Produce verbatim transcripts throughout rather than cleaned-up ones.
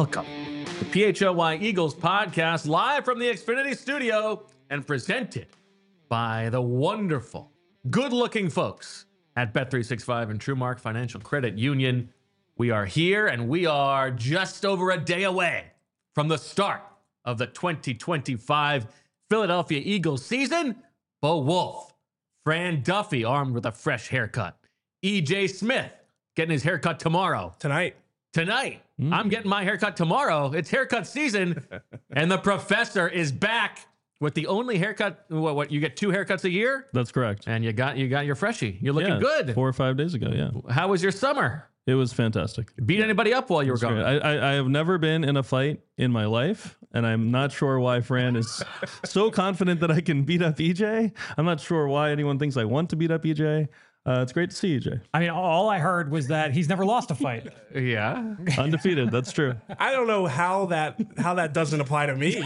welcome. The P H L Y Eagles podcast live from the Xfinity studio and presented by the wonderful, good-looking folks at Bet three sixty-five and TrueMark Financial Credit Union. We are here and we are just over a day away from the start of the twenty twenty-five Philadelphia Eagles season. Bo Wolf, Fran Duffy armed with a fresh haircut. E J Smith getting his haircut tomorrow. Tonight. Tonight. Mm. I'm getting my haircut tomorrow. It's haircut season. And the professor is back with the only haircut. What, what you get two haircuts a year? That's correct. And you got you got your freshie. You're looking yeah, good. Four or five days ago, yeah. How was your summer? It was fantastic. Beat anybody up while you were gone? I, I, I have never been in a fight in my life, and I'm not sure why Fran is so confident that I can beat up E J. I'm not sure why anyone thinks I want to beat up E J. Uh, it's great to see E J. I mean, all I heard was that he's never lost a fight. Yeah. Undefeated. That's true. I don't know how that how that doesn't apply to me.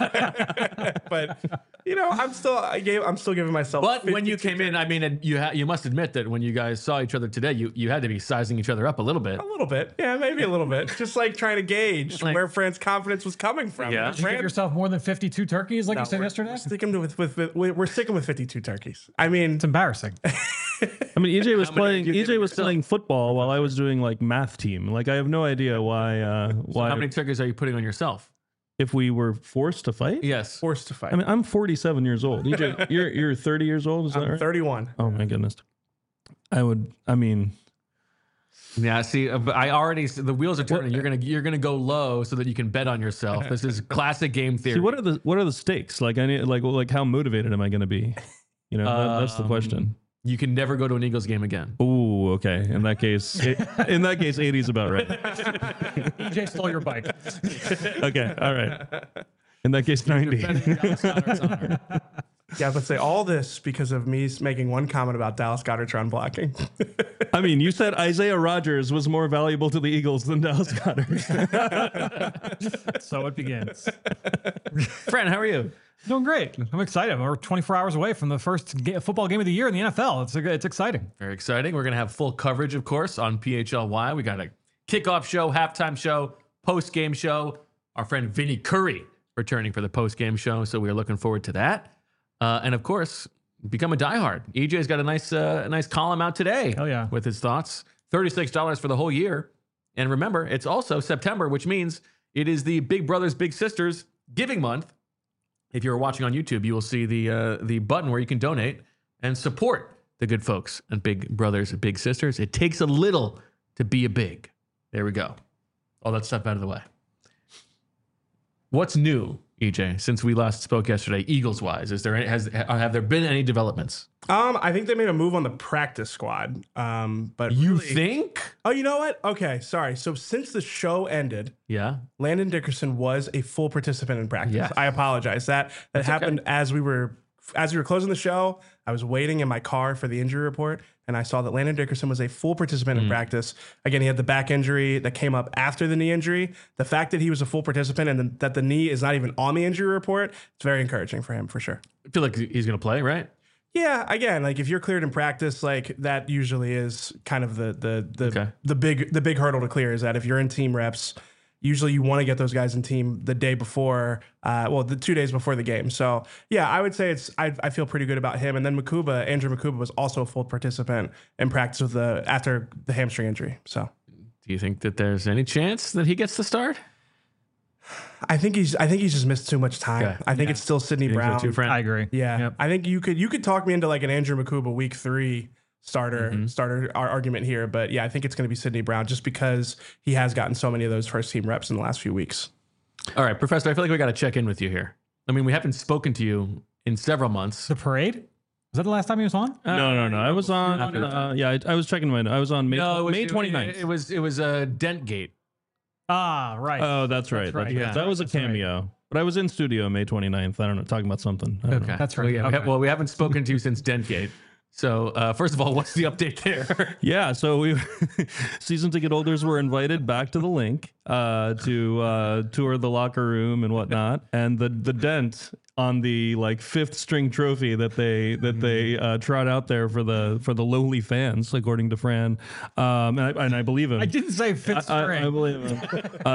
But you know, I'm still I gave I'm still giving myself. But when you came in, I mean, and you ha- you must admit that when you guys saw each other today, you you had to be sizing each other up a little bit. A little bit, yeah, maybe a little bit. Just like trying to gauge Like, where Fran's confidence was coming from. Yeah. Did you Fran, give yourself more than fifty-two turkeys like no, you said we're, yesterday? We're sticking to with, with, with we're sticking with fifty-two turkeys. I mean, It's embarrassing. I mean, E J was How many playing. did you E J give was yourself? playing football while I was doing like math team. Like I have no idea why. Uh, why? How many turkeys are you putting on yourself? if we were forced to fight? Yes. Forced to fight. I mean, I'm forty-seven years old. E J, you're you're thirty years old. Is that I'm right? thirty-one. Oh my goodness. I would. I mean. Yeah, see, uh, but I already the wheels are turning. You're gonna you're gonna go low so that you can bet on yourself. This is classic game theory. See, what are the what are the stakes? Like I need like like how motivated am I going to be? You know, that, that's the Um, question. You can never go to an Eagles game again. Ooh, okay. In that case, it, in that case, eighty's about right. E J stole your bike. Okay, all right. In that case, ninety. Yeah, but say all this because of me making one comment about Dallas Goddard run blocking. I mean, you said Isaiah Rodgers was more valuable to the Eagles than Dallas Goddard. So it begins. Fran, how are you? Doing great. I'm excited. We're twenty-four hours away from the first ga- football game of the year in the N F L. It's it's exciting. Very exciting. We're going to have full coverage, of course, on P H L Y. We got a kickoff show, halftime show, post-game show. Our friend Vinny Curry returning for the post-game show, so we're looking forward to that. Uh, and, of course, become a diehard. E J's got a nice uh, a nice column out today Oh, yeah. with his thoughts. thirty-six dollars for the whole year. And remember, it's also September, which means it is the Big Brothers Big Sisters Giving Month. If you're watching on YouTube, you will see the uh, the button where you can donate and support the good folks and Big Brothers and Big Sisters. It takes a little to be a big. There we go. All that stuff out of the way. What's new, E J, since we last spoke yesterday, Eagles-wise? Is there any, has have there been any developments? Um, I think they made a move on the practice squad. Um, but You really- think? Oh, you know what? Okay, sorry. So since the show ended, Yeah. Landon Dickerson was a full participant in practice. Yes. I apologize. That that happened as we were as we were closing the show. I was waiting in my car for the injury report, and I saw that Landon Dickerson was a full participant in practice. Again, he had the back injury that came up after the knee injury. The fact that he was a full participant and then- that the knee is not even on the injury report, it's very encouraging for him for sure. I feel like he's going to play, right? Yeah, again, like if you're cleared in practice, like that usually is kind of the the the Okay. the big the big hurdle to clear is that if you're in team reps, usually you want to get those guys in team the day before, uh, well, the two days before the game. So yeah, I would say it's I, I feel pretty good about him. And then Makuba, Andrew Makuba was also a full participant in practice with the after the hamstring injury. So Do you think that there's any chance that he gets the start? I think he's I think he's just missed too much time. Okay. I think it's still Sidney You think so Brown. too, Fran? I agree. Yeah, Yep. I think you could you could talk me into like an Andrew Makuba week three starter Mm-hmm. starter ar- argument here, but yeah, I think it's going to be Sidney Brown just because he has gotten so many of those first team reps in the last few weeks. All right, Professor, I feel like we got to check in with you here. I mean, we haven't spoken to you in several months. The parade? Was that the last time he was on? no, no, no. I was on. After Uh, yeah, I, I was checking my. I was on May, No, it was, May it- twenty-ninth. It, was it was a Dentgate. Ah, right. Oh, that's right. That's right, right. yeah. That was a That's right. cameo. But I was in studio May twenty-ninth. I don't know, talking about something. I don't know. That's Well, right. yeah, we ha- Okay. well, we haven't spoken to you since Dentgate. So, uh, first of all, what's the update there? Yeah, so we season ticket holders were invited back to the link uh, to uh, tour the locker room and whatnot. And the the dent on the like fifth string trophy that they that they uh, trot out there for the for the lowly fans, according to Fran, um, and, I, and I believe him. I didn't say fifth I, string. I, I believe him. uh,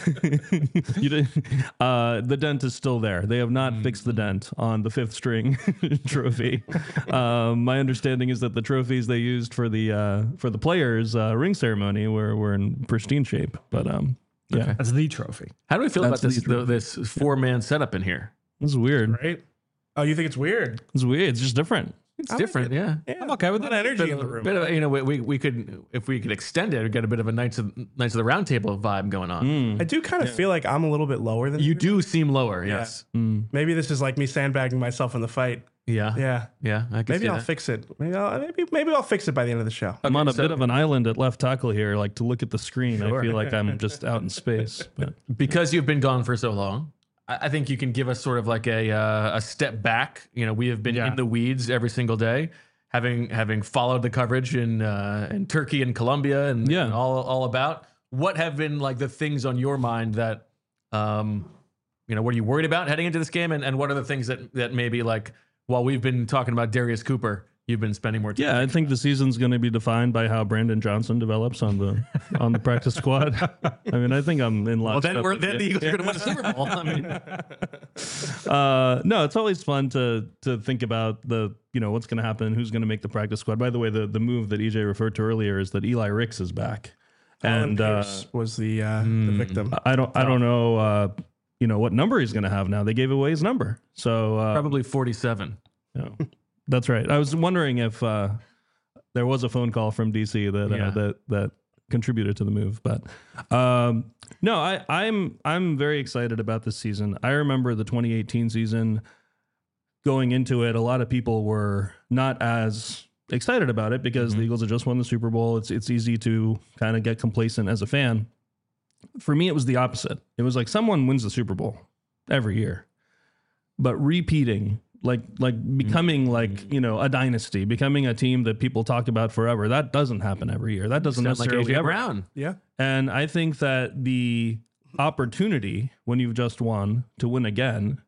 you did, uh, the dent is still there. They have not fixed the dent on the fifth string trophy. Um, my understanding is that the trophies they used for the uh, for the players' uh, ring ceremony were were in pristine shape, but um, yeah, Okay. That's the trophy. How do we feel That's about this the- the, this four man setup in here? it's weird. Right? Oh, you think it's weird? It's weird. It's just different. It's I like different, yeah. Yeah, I'm okay with a lot it. of energy Bit in of, the room. bit of, you know, we, we we could if we could extend it, we get a bit of a Knights of Knights of the Round Table vibe going on. Mm. I do kind of feel like I'm a little bit lower than You everybody. do seem lower, yes. Mm. Maybe this is like me sandbagging myself in the fight. Yeah, yeah. Yeah. I can Maybe see I'll that. fix it. Maybe I'll, maybe maybe I'll fix it by the end of the show. I'm on a so- bit of an island at left tackle here, like to look at the screen. Sure. I feel like I'm just out in space. But Because you've been gone for so long. I I think you can give us sort of like a uh, a step back. You know, we have been Yeah. in the weeds every single day, having having followed the coverage in uh, in Turkey and Colombia and, Yeah. and all all about. What have been like the things on your mind that, um, you know, what are you worried about heading into this game, and, and what are the things that that maybe like while we've been talking about Darius Cooper, you've been spending more time. yeah, I think the season's going to be defined by how Brandon Johnson develops on the on the practice squad. I mean, I think I'm in Well, lockstep then we're with then the you. Eagles are going to win the Super Bowl. I mean, Uh, no, it's always fun to to think about the you know what's going to happen, who's going to make the practice squad. By the way, the the move that E J referred to earlier is that Eli Ricks is back, Alan and uh, Pierce was the uh, the mm, victim. I don't I don't know uh, you know what number he's going to have now. They gave away his number, so uh, probably forty-seven. no. That's right. I was wondering if uh, there was a phone call from D C that Yeah. uh, that that contributed to the move, but um, no, I, I'm I'm very excited about this season. I remember the twenty eighteen season. Going into it, a lot of people were not as excited about it because Mm-hmm. the Eagles had just won the Super Bowl. It's it's easy to kind of get complacent as a fan. For me, it was the opposite. It was like someone wins the Super Bowl every year, but repeating, like like becoming like you know a dynasty, becoming a team that people talk about forever. That doesn't happen every year. That doesn't Sound like A necessarily J ever. Brown. Yeah. And I think that the opportunity when you've just won to win again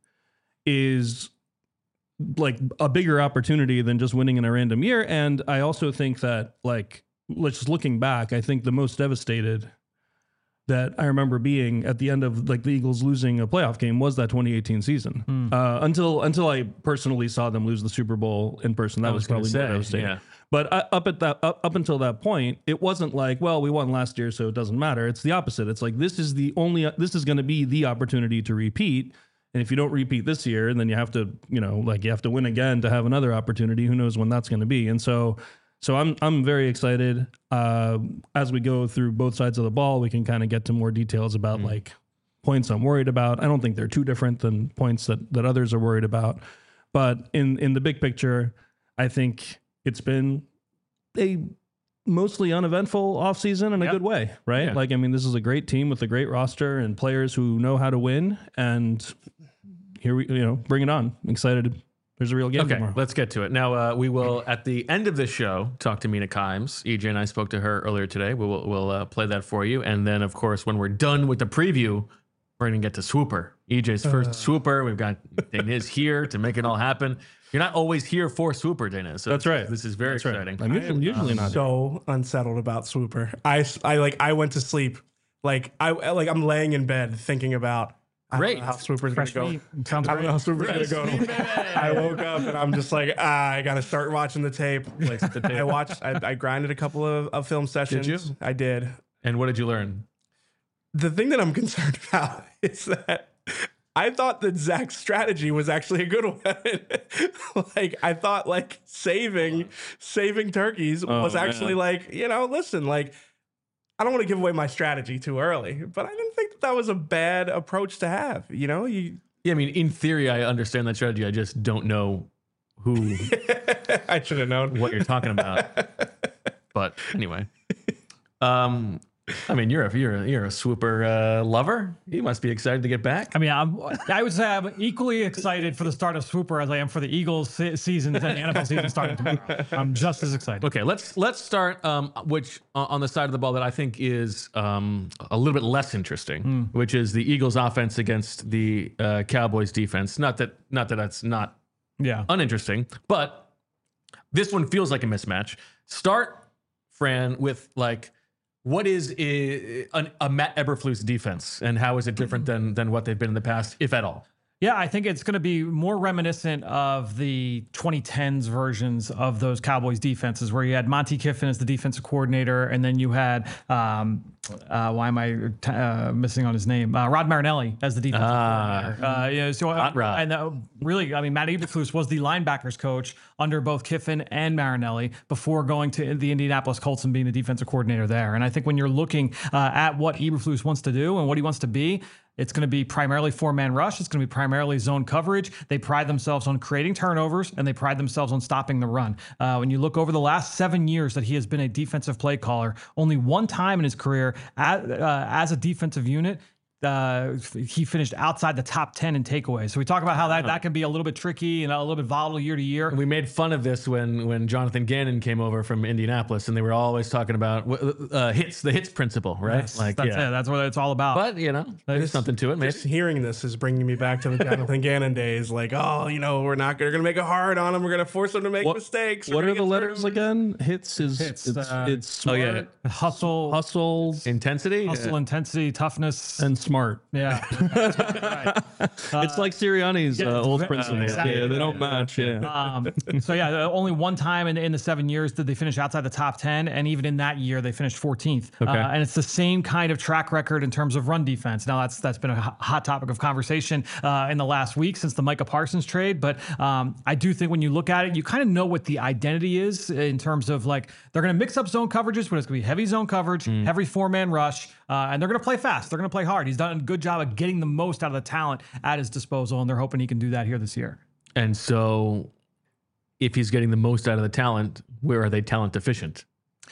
is like a bigger opportunity than just winning in a random year. And I also think that, like, let's just looking back, I think the most devastated that I remember being at the end of like the Eagles losing a playoff game was that twenty eighteen season. Uh, until until I personally saw them lose the Super Bowl in person, that I was, was gonna probably say, more devastating. yeah. But uh, up at that up, up until that point, it wasn't like, well, we won last year, so it doesn't matter. It's the opposite. It's like this is the only this is going to be the opportunity to repeat. And if you don't repeat this year, then you have to, you know, like you have to win again to have another opportunity. Who knows when that's going to be? And so, so I'm I'm very excited. Uh, as we go through both sides of the ball, we can kind of get to more details about like points I'm worried about. I don't think they're too different than points that that others are worried about. But in in the big picture, I think it's been a mostly uneventful offseason in a Yeah. good way, right? Yeah. Like, I mean, this is a great team with a great roster and players who know how to win. And here we, you know, bring it on. I'm excited. There's a real game Okay, tomorrow. let's get to it. Now, uh, we will, at the end of the show, talk to Mina Kimes. E J and I spoke to her earlier today. We will we'll uh, play that for you. And then, of course, when we're done with the preview, we're going to get to Swooper. E J's first Swooper. We've got Deniz here to make it all happen. You're not always here for Swooper, Deniz. So That's right. This is very That's right. exciting. I'm usually, usually not. So unsettled about Swooper. I, I like I went to sleep like I like I'm laying in bed thinking about I don't Great. know how Swooper's gonna Fresh go. meat. Sounds I don't know great. how Swooper's gonna go. I woke up and I'm just like, ah, I gotta start watching the tape. Like the tape. I watched, I, I grinded a couple of, of film sessions. you? I did. And what did you learn? The thing that I'm concerned about is that I thought that Zach's strategy was actually a good one. Like I thought like saving saving turkeys Oh, was actually man. like, you know, listen, like I don't want to give away my strategy too early, but I didn't think that, that was a bad approach to have. You know, you Yeah, I mean, in theory, I understand that strategy. I just don't know who, I should have known. what you're talking about. But anyway, um, I mean, you're a you're a, you're a Swooper uh, lover. You must be excited to get back. I mean, I'm, I would say I'm equally excited for the start of Swooper as I am for the Eagles se- season and the N F L season starting tomorrow. I'm just as excited. Okay, let's let's start. Um, which uh, on the side of the ball that I think is um, a little bit less interesting, Mm. which is the Eagles' offense against the uh, Cowboys' defense. Not that not that that's not Yeah. uninteresting, but this one feels like a mismatch. Start, Fran, with like, what is a, a, a Matt Eberflus defense, and how is it different than than what they've been in the past, if at all? Yeah, I think it's going to be more reminiscent of the twenty tens versions of those Cowboys defenses, where you had Monty Kiffin as the defensive coordinator, and then you had um, uh, why am I t- uh, missing on his name? Uh, Rod Marinelli as the defensive Ah. coordinator. Uh, you know, so Hot Rod. and uh, really, I mean, Matt Eberflus was the linebackers coach under both Kiffin and Marinelli before going to the Indianapolis Colts and being the defensive coordinator there. And I think when you're looking uh, at what Eberflus wants to do and what he wants to be, it's going to be primarily four-man rush. It's going to be primarily zone coverage. They pride themselves on creating turnovers, and they pride themselves on stopping the run. Uh, when you look over the last seven years that he has been a defensive play caller, only one time in his career as, uh, as a defensive unit, uh, he finished outside the top ten in takeaways. So we talk about how that, that can be a little bit tricky and a little bit volatile year to year. We made fun of this when when Jonathan Gannon came over from Indianapolis, and they were always talking about uh, hits, the hits principle, right? Yes, that's yeah. it. That's what it's all about. But you know, there's something to it, maybe. Just hearing this is bringing me back to the Jonathan Gannon days. Like, oh, you know, we're not going to make it hard on him. We're going to force him to make What- mistakes. We're What gonna are the get letters again? Hits is Hits, it's uh, it's Oh, smart, yeah. hustle, hustle, Intensity. hustle, intensity, toughness. and smart. Yeah. Right. it's like Sirianni's yeah, uh, it's old ve- principles. exactly. Yeah, they don't match. Yeah. Um, so yeah, uh, only one time in, in the seven years did they finish outside the top ten, and even in that year they finished fourteenth. Okay. Uh, and it's the same kind of track record in terms of run defense. Now that's that's been a ho- hot topic of conversation uh, in the last week since the Micah Parsons trade. But um, I do think when you look at it, you kind of know what the identity is in terms of like they're going to mix up zone coverages, but it's going to be heavy zone coverage, heavy four man rush, uh, and they're going to play fast. They're going to play hard. He's done a good job of getting the most out of the talent at his disposal, and they're hoping he can do that here this year. And so, if he's getting the most out of the talent, where are they talent deficient?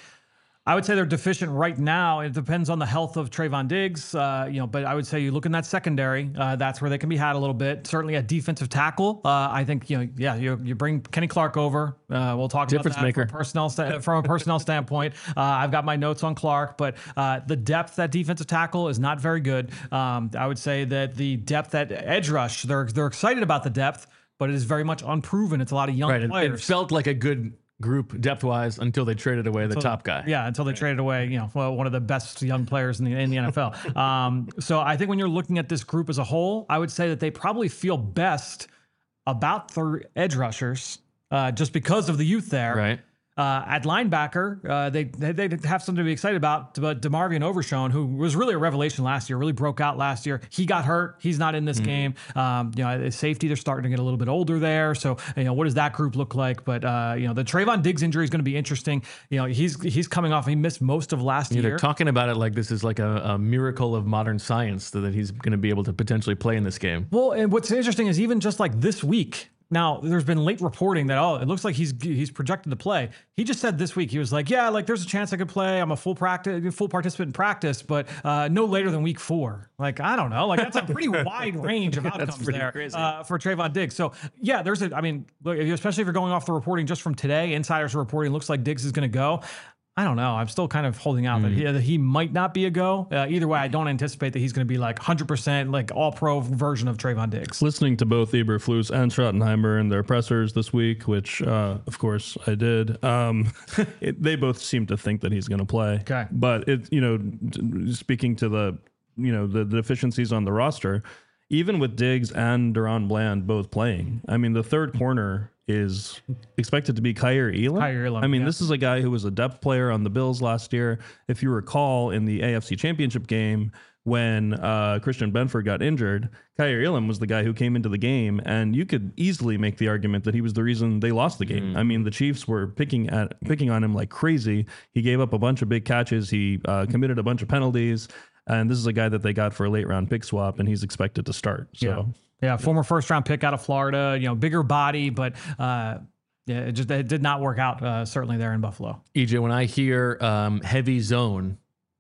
I would say they're deficient right now. It depends on the health of Trayvon Diggs, uh, you know. But I would say you look in that secondary. Uh, that's where they can be had a little bit. Certainly a defensive tackle. Uh, I think you know. Yeah, you you bring Kenny Clark over. Uh, we'll talk Difference about that maker. from a personnel sta- from a personnel standpoint. Uh, I've got my notes on Clark, but uh, the depth at defensive tackle is not very good. Um, I would say that the depth at edge rush, they're they're excited about the depth, but it is very much unproven. It's a lot of young Right, and players. it felt like a good group depth wise until they traded away the top guy. Yeah, until they traded away, you know, well, one of the best young players in the in the N F L. Um, so I think when you're looking at this group as a whole, I would say that they probably feel best about their edge rushers uh, just because of the youth there. Right. Uh, at linebacker, uh, they, they they have something to be excited about. But DeMarvion Overshown, who was really a revelation last year, really broke out last year. He got hurt. He's not in this game. Um, you know, at safety, they're starting to get a little bit older there. So you know, what does that group look like? But uh, you know, the Trayvon Diggs injury is going to be interesting. You know, he's he's coming off. He missed most of last Yeah, year. they're talking about it like this is like a, a miracle of modern science that he's going to be able to potentially play in this game. Well, and what's interesting is even just like this week. Now, there's been late reporting that, oh, it looks like he's he's projected to play. He just said this week, he was like, yeah, like there's a chance I could play. I'm a full practice, full participant in practice, but uh, no later than week four. Like, I don't know. Like, that's a pretty wide range of outcomes pretty there crazy. uh, for Trayvon Diggs. So, yeah, there's a, I mean, look, especially if you're going off the reporting just from today, insiders are reporting, looks like Diggs is going to go. I don't know. I'm still kind of holding out that, he, that he might not be a go. Uh, either way, I don't anticipate that he's going to be like one hundred percent like all pro version of Trayvon Diggs. Listening to both Eberflus and Schottenheimer in their pressers this week, which uh, of course I did, um, it, they both seem to think that he's going to play. Okay. But it, you know, d- speaking to the, you know, the, the deficiencies on the roster, even with Diggs and Deron Bland both playing, I mean, the third corner is expected to be Kyer Elam. Kyer Elam, I mean, yeah. this is a guy who was a depth player on the Bills last year. If you recall, in the A F C Championship game when uh, Christian Benford got injured, Kyer Elam was the guy who came into the game, and you could easily make the argument that he was the reason they lost the game. I mean, the Chiefs were picking at picking on him like crazy. He gave up a bunch of big catches. He uh, committed a bunch of penalties. And this is a guy that they got for a late round pick swap, and he's expected to start. So. Yeah. Yeah, former first round pick out of Florida, you know, bigger body, but uh, yeah, it just it did not work out, uh, certainly there in Buffalo. E J, when I hear um, heavy zone,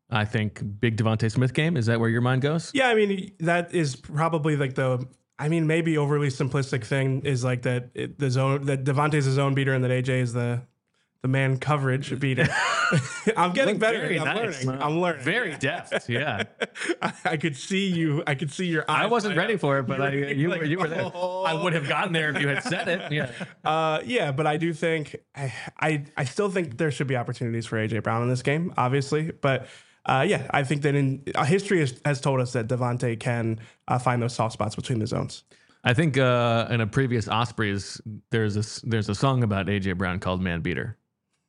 I think big Devontae Smith game. Is that where your mind goes? Yeah, I mean that is probably like the. I mean, maybe overly simplistic thing is like that it, the zone that Devontae's a zone beater and that A J is the the man coverage beater. I'm getting better. Very I'm nice. learning. I'm learning. Very deft. Yeah. I, I could see you. I could see your eyes. I wasn't light ready up. for it, but I, you, like, were, you were there. I would have gotten there if you had said it. Yeah. Uh, yeah, but I do think I, I I still think there should be opportunities for A J Brown in this game, obviously. But uh, yeah, I think that in uh, history has, has told us that Devontae can uh, find those soft spots between the zones. I think uh, in a previous Ospreys, there's a there's a song about A J Brown called "Man Beater."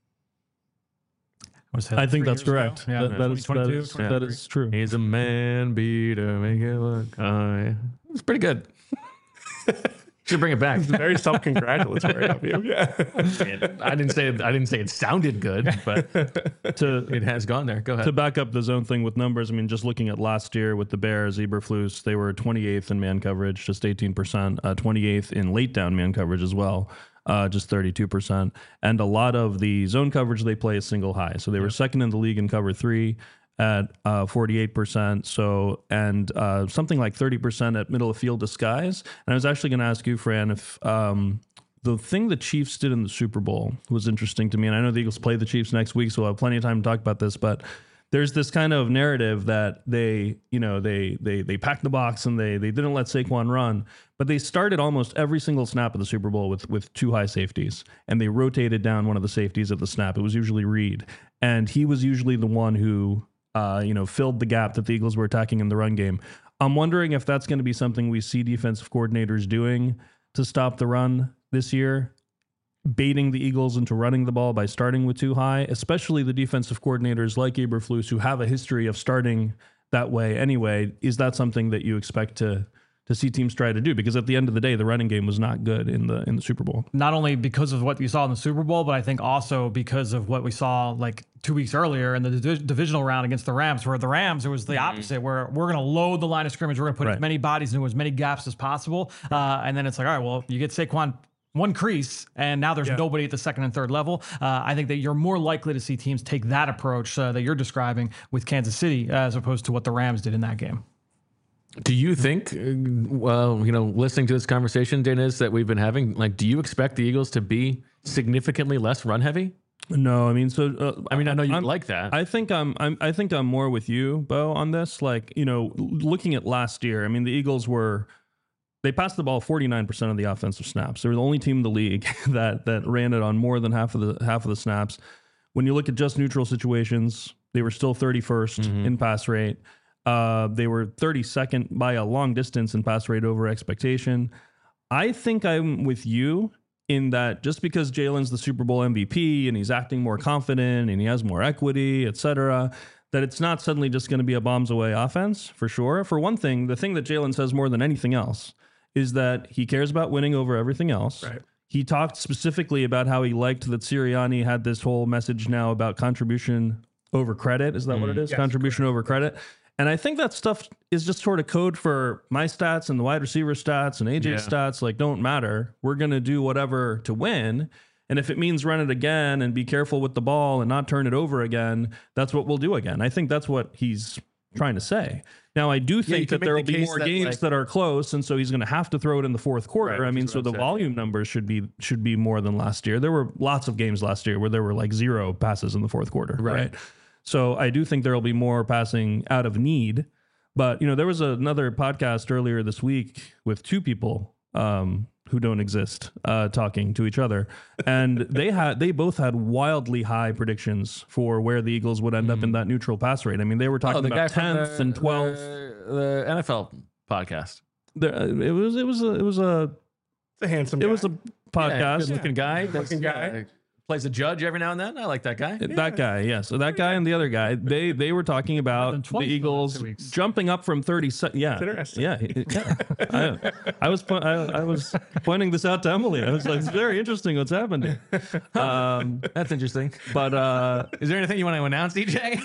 I think that's correct. Yeah, That, that, is, that, is, that is true. He's a man beater, make it look. Oh, yeah. It's pretty good. Should bring it back. Very self-congratulatory of you. Yeah. I didn't say I didn't say it sounded good, but To it has gone there. Go ahead. to back up the zone thing with numbers, I mean, just looking at last year with the Bears, Eberflus, they were twenty-eighth in man coverage, just eighteen percent, uh, twenty-eighth in late down man coverage as well, uh, just thirty-two percent. And a lot of the zone coverage they play is single high. So they were second in the league in cover three at uh, forty-eight percent. So, and uh, something like thirty percent at middle of field disguise. And I was actually going to ask you, Fran, if um, the thing the Chiefs did in the Super Bowl was interesting to me. And I know the Eagles play the Chiefs next week, so we'll have plenty of time to talk about this, but there's this kind of narrative that they, you know, they they they packed the box and they they didn't let Saquon run, but they started almost every single snap of the Super Bowl with with two high safeties, and they rotated down one of the safeties at the snap. It was usually Reed, and he was usually the one who, uh, you know, filled the gap that the Eagles were attacking in the run game. I'm wondering if that's going to be something we see defensive coordinators doing to stop the run this year, baiting the Eagles into running the ball by starting with too high, especially the defensive coordinators like Eberflus who have a history of starting that way anyway. Is that something that you expect to to see teams try to do? Because at the end of the day, the running game was not good in the in the Super Bowl. Not only because of what you saw in the Super Bowl, but I think also because of what we saw like two weeks earlier in the div- divisional round against the Rams, where the Rams, it was the opposite, where we're going to load the line of scrimmage. We're going to put Right. as many bodies into as many gaps as possible. Uh, and then it's like, all right, well, you get Saquon one crease, and now there's Yeah. nobody at the second and third level. Uh, I think that you're more likely to see teams take that approach uh, that you're describing with Kansas City as opposed to what the Rams did in that game. Do you think, uh, well, you know, listening to this conversation, Dennis, that we've been having, like, do you expect the Eagles to be significantly less run heavy? No, I mean, so uh, I mean, I know you I'm- like that. I think I'm, I'm I think I'm more with you, Bo, on this. Like, you know, looking at last year, I mean, the Eagles were they passed the ball forty-nine percent of the offensive snaps. They were the only team in the league that that ran it on more than half of the half of the snaps. When you look at just neutral situations, they were still thirty-first Mm-hmm. in pass rate. Uh, they were thirty-second by a long distance in pass rate over expectation. I think I'm with you in that just because Jalen's the Super Bowl M V P and he's acting more confident and he has more equity, et cetera, that it's not suddenly just going to be a bombs away offense, for sure. For one thing, the thing that Jalen says more than anything else is that he cares about winning over everything else. Right. He talked specifically about how he liked that Sirianni had this whole message now about contribution over credit. Is that what it is? Yes, Contribution over credit. And I think that stuff is just sort of code for my stats and the wide receiver stats and A J's Yeah. stats, like, don't matter. We're going to do whatever to win. And if it means run it again and be careful with the ball and not turn it over again, that's what we'll do again. I think that's what he's trying to say. Now, I do you think could that make there the will be case more that, games like- that are close, and so he's going to have to throw it in the fourth quarter. Right, I mean, which is so what the I'm saying. volume numbers should be should be more than last year. There were lots of games last year where there were like zero passes in the fourth quarter, Right. right? So I do think there will be more passing out of need. But, you know, there was another podcast earlier this week with two people um, who don't exist uh, talking to each other. And they had they both had wildly high predictions for where the Eagles would end up in that neutral pass rate. I mean, they were talking oh, the guy about from tenth the, and twelfth. the, the N F L podcast. There, uh, it was it was a it was a It's a handsome. it guy. was a podcast. good looking guy. Good-looking That's- guy. uh, plays a judge every now and then. I like that guy. That guy, yes. So that guy and the other guy, they they were talking about than the twice in the last Eagles two weeks. jumping up from thirty. Se- yeah, It's interesting. Yeah, yeah. I, I was po- I, I was pointing this out to Emily. I was like, it's very interesting what's happening. Um, That's interesting. but uh, Is there anything you want to announce, D J?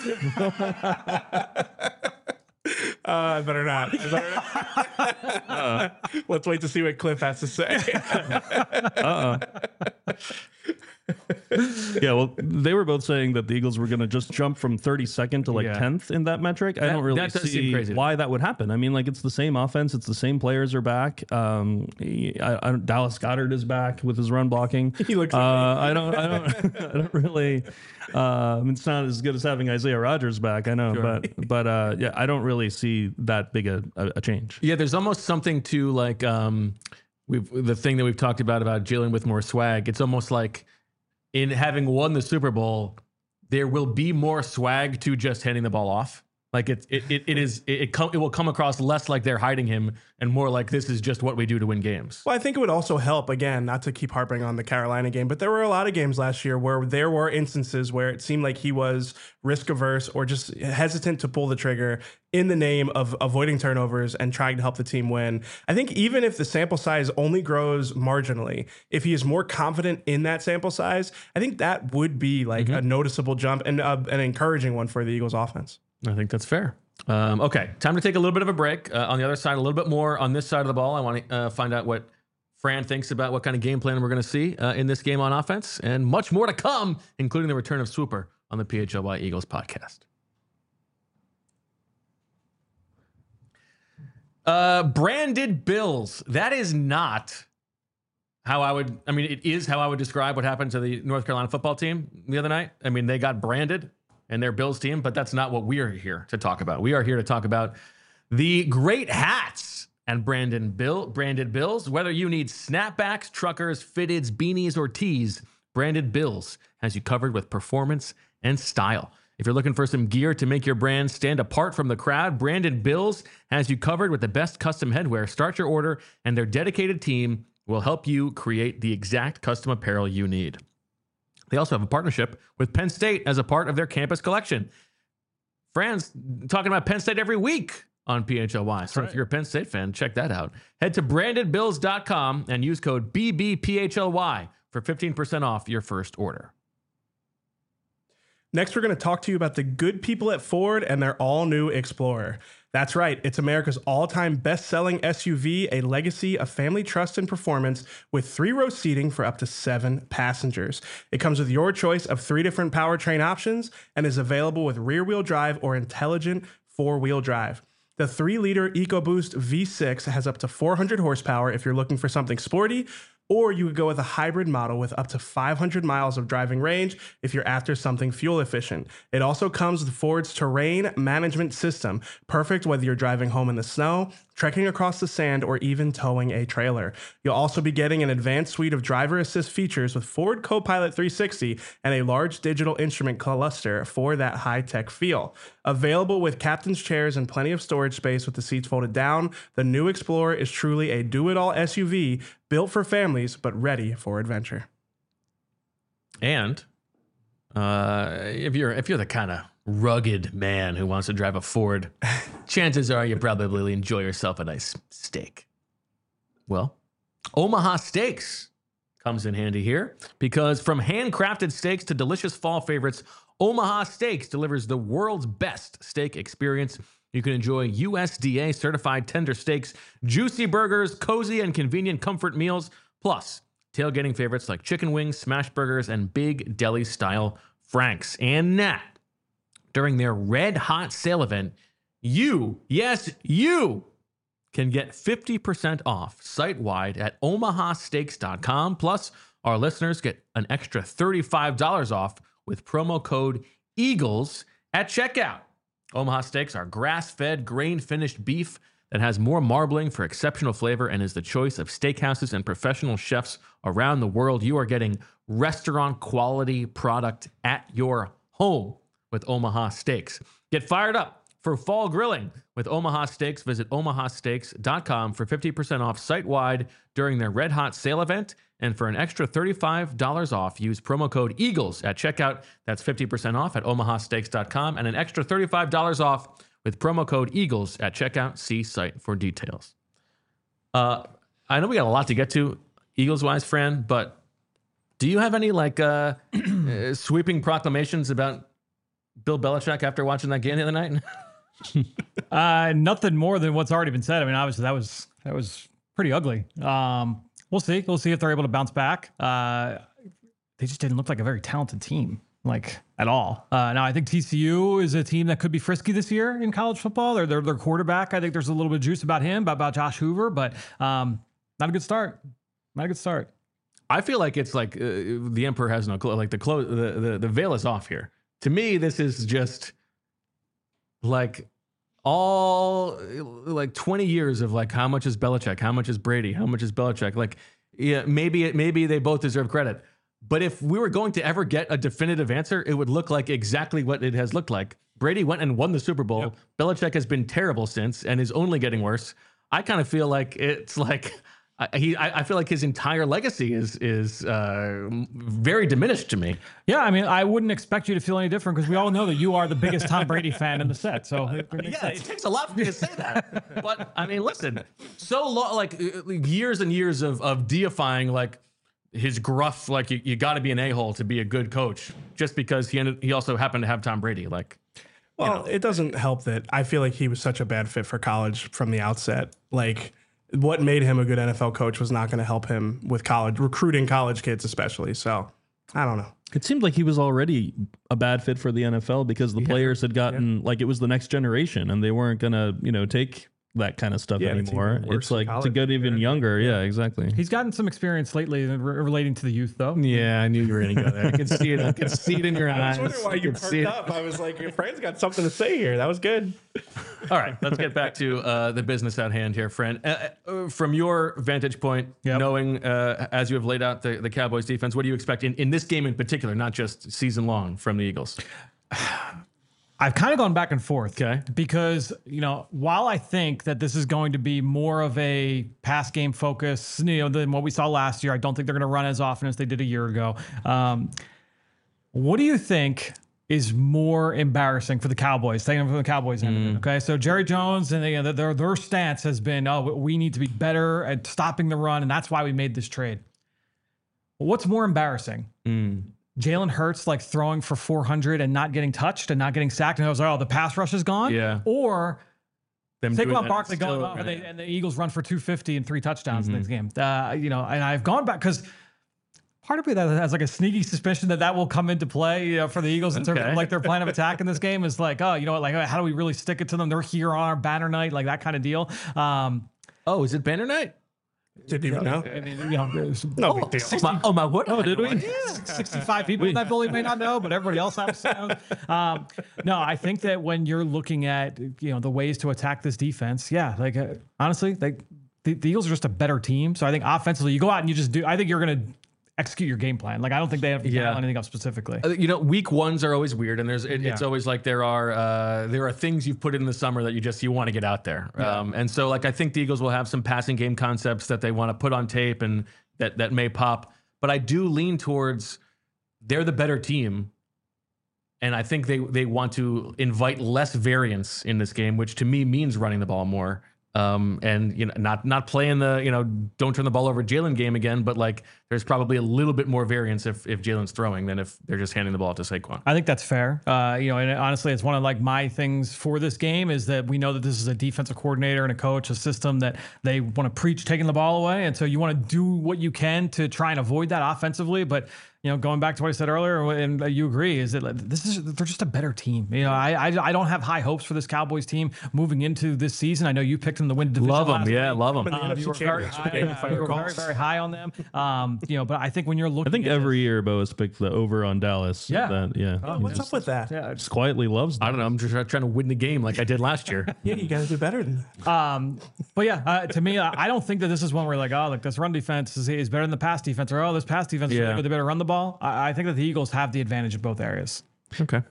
Uh, I better not. I better not. Let's wait to see what Cliff has to say. uh-uh. Yeah, well, they were both saying that the Eagles were going to just jump from thirty-second to like Yeah. tenth in that metric. I That- don't really that does seem see crazy to why that would happen. I mean, like it's the same offense, it's the same players are back. Um, I, I, Dallas Goedert is back with his run blocking. He looks Uh, I don't, I don't, I don't really. Uh, I mean, it's not as good as having Isaiah Rodgers back. I know, but but uh, yeah, I don't really see that big a, a, a change. Yeah, there's almost something to like um, we've the thing that we've talked about about Jalen with more swag. It's almost like in having won the Super Bowl, there will be more swag to just handing the ball off. Like it, it, it, it is, it, it, com- it will come across less like they're hiding him and more like this is just what we do to win games. Well, I think it would also help, again, not to keep harping on the Carolina game, but there were a lot of games last year where there were instances where it seemed like he was risk averse or just hesitant to pull the trigger in the name of avoiding turnovers and trying to help the team win. I think even if the sample size only grows marginally, if he is more confident in that sample size, I think that would be like mm-hmm. a noticeable jump and uh, an encouraging one for the Eagles offense. I think that's fair. Um, okay, time to take a little bit of a break. Uh, on the other side, a little bit more on this side of the ball. I want to uh, find out what Fran thinks about what kind of game plan we're going to see uh, in this game on offense, and much more to come, including the return of Swooper on the P H L Y Eagles podcast. Uh, branded bills. That is not how I would, I mean, it is how I would describe what happened to the North Carolina football team the other night. I mean, they got branded and their Bills team, but that's not what we are here to talk about. We are here to talk about the great hats and branded bill branded bills. Whether you need snapbacks, truckers, fitteds, beanies, or tees, Branded Bills has you covered with performance and style. If you're looking for some gear to make your brand stand apart from the crowd, Branded Bills has you covered with the best custom headwear. Start your order, and their dedicated team will help you create the exact custom apparel you need. They also have a partnership with Penn State as a part of their campus collection. Fran's talking about Penn State every week on P H L Y. So right. if you're a Penn State fan, check that out. Head to branded bills dot com and use code B B P H L Y for fifteen percent off your first order. Next, we're going to talk to you about the good people at Ford and their all-new Explorer. That's right. It's America's all-time best-selling S U V, a legacy of family trust and performance with three-row seating for up to seven passengers. It comes with your choice of three different powertrain options and is available with rear-wheel drive or intelligent four-wheel drive. The three-liter EcoBoost V six has up to four hundred horsepower if you're looking for something sporty, or you could go with a hybrid model with up to five hundred miles of driving range if you're after something fuel efficient. It also comes with Ford's terrain management system, perfect whether you're driving home in the snow, trekking across the sand, or even towing a trailer. You'll also be getting an advanced suite of driver assist features with Ford Copilot three sixty and a large digital instrument cluster for that high-tech feel. Available with captain's chairs and plenty of storage space with the seats folded down, the new Explorer is truly a do-it-all S U V built for families but ready for adventure. And uh, if you're if you're the kind of rugged man who wants to drive a Ford, chances are you probably enjoy yourself a nice steak. Well, Omaha Steaks comes in handy here because from handcrafted steaks to delicious fall favorites, Omaha Steaks delivers the world's best steak experience. You can enjoy U S D A certified tender steaks, juicy burgers, cozy and convenient comfort meals, plus tailgating favorites like chicken wings, smash burgers, and big deli style franks. And now, during their red hot sale event, you, yes, you can get fifty percent off site-wide at omaha steaks dot com. Plus, our listeners get an extra thirty-five dollars off with promo code EAGLES at checkout. Omaha Steaks are grass-fed, grain-finished beef that has more marbling for exceptional flavor and is the choice of steakhouses and professional chefs around the world. You are getting restaurant-quality product at your home with Omaha Steaks. Get fired up for fall grilling with Omaha Steaks. Visit omaha steaks dot com for fifty percent off site-wide during their Red Hot Sale event. And for an extra thirty-five dollars off, use promo code EAGLES at checkout. That's fifty percent off at omaha steaks dot com and an extra thirty-five dollars off with promo code EAGLES at checkout. See site for details. Uh, I know we got a lot to get to Eagles-wise, Fran, but do you have any like uh, uh, sweeping proclamations about Bill Belichick after watching that game the other night? uh, nothing more than what's already been said. I mean, obviously that was that was pretty ugly. Um, we'll see. We'll see if they're able to bounce back. Uh, they just didn't look like a very talented team, like at all. Uh, now I think T C U is a team that could be frisky this year in college football. They're, they're their quarterback. I think there's a little bit of juice about him, about, about Josh Hoover, but um, not a good start. Not a good start. I feel like it's like uh, the emperor has no clothes. Like the, clo- the the the veil is off here. To me, this is just like all like twenty years of like how much is Belichick, how much is Brady, how much is Belichick. Like, yeah, maybe it, maybe they both deserve credit. But if we were going to ever get a definitive answer, it would look like exactly what it has looked like. Brady went and won the Super Bowl. Yep. Belichick has been terrible since and is only getting worse. I kind of feel like it's like. He, I, I feel like his entire legacy is is uh, very diminished to me. Yeah, I mean, I wouldn't expect you to feel any different because we all know that you are the biggest Tom Brady fan in the set. So it yeah, sense. It takes a lot for me to say that. But I mean, listen, so long, like years and years of of deifying like his gruff, like you, you got to be an a-hole to be a good coach, just because he ended, he also happened to have Tom Brady. Like, well, you know. It doesn't help that I feel like he was such a bad fit for college from the outset. Like. What made him a good N F L coach was not going to help him with college, recruiting college kids especially. So, I don't know. It seemed like he was already a bad fit for the N F L because the yeah. players had gotten, yeah. like it was the next generation and they weren't going to, you know, take that kind of stuff yeah, anymore. It's, it's like to get even younger. Yeah, exactly. He's gotten some experience lately re- relating to the youth, though. Yeah, I knew you were going to go there. I can see it. I can see it in your eyes. I was wondering why you perked up. I was like, your friend's got something to say here. That was good. All right, let's get back to uh, the business at hand here, friend. Uh, uh, from your vantage point, yep. knowing uh, as you have laid out the, the Cowboys defense, what do you expect in, in this game in particular, not just season long, from the Eagles? I've kind of gone back and forth. Okay. Because, you know, while I think that this is going to be more of a pass game focus, you know, than what we saw last year, I don't think they're going to run as often as they did a year ago. Um, what do you think is more embarrassing for the Cowboys, taking from the Cowboys end of it, okay? So Jerry Jones and they, their, their stance has been, oh, we need to be better at stopping the run, and that's why we made this trade. What's more embarrassing? Mm. Jalen Hurts like throwing for four hundred and not getting touched and not getting sacked, and I was like, oh, the pass rush is gone? Yeah. Or Them Saquon Barkley going off, and, they, and the Eagles run for two fifty and three touchdowns mm-hmm. in this game. Uh, you know, and I've gone back because part of me that has like a sneaky suspicion that that will come into play, you know, for the Eagles in terms okay. of like their plan of attack in this game is like, oh, you know what, like how do we really stick it to them? They're here on our banner night, like that kind of deal. Um, oh, is it banner night? Didn't even know. I mean, you know, no oh, big deal. sixty, oh, my, oh, my what? Oh, did we? Yeah. sixty-five people in that building may not know, but everybody else knows. Um, no, I think that when you're looking at, you know, the ways to attack this defense, yeah, like uh, honestly, like the, the Eagles are just a better team. So I think offensively, you go out and you just do. I think you're going to execute your game plan. Like I don't think they have to yeah. dial anything up specifically. Uh, you know, week ones are always weird, and there's it, yeah. it's always like there are uh, there are things you've put in the summer that you just you want to get out there. Yeah. Um, and so like I think the Eagles will have some passing game concepts that they want to put on tape and that that may pop. But I do lean towards they're the better team. And I think they they want to invite less variance in this game, which to me means running the ball more. Um, and you know, not not playing the you know don't turn the ball over Jalen game again, but like there's probably a little bit more variance if if Jalen's throwing than if they're just handing the ball to Saquon. I think that's fair. Uh, you know, and honestly, it's one of like my things for this game is that we know that this is a defensive coordinator and a coach, a system that they want to preach taking the ball away, and so you want to do what you can to try and avoid that offensively, but. You know, going back to what I said earlier, and you agree, is that this is they're just a better team. You know, I, I I don't have high hopes for this Cowboys team moving into this season. I know you picked them to win the division. Love them, last yeah, week. love them. Um, you were very high, uh, you were very, very high on them. Um, you know, but I think when you're looking, I think at every this, year Bo has picked the over on Dallas. Yeah. that, yeah. Oh, what's just, up with that? yeah, just quietly loves them. I don't know. I'm just trying to win the game like I did last year. Yeah, you got to do better than that. Um, but yeah, uh, to me, I don't think that this is one where like, oh, like this run defense is, is better than the pass defense, or oh, this pass defense is Yeah. really good, they better run the ball. I, I think that the Eagles have the advantage in both areas. Okay.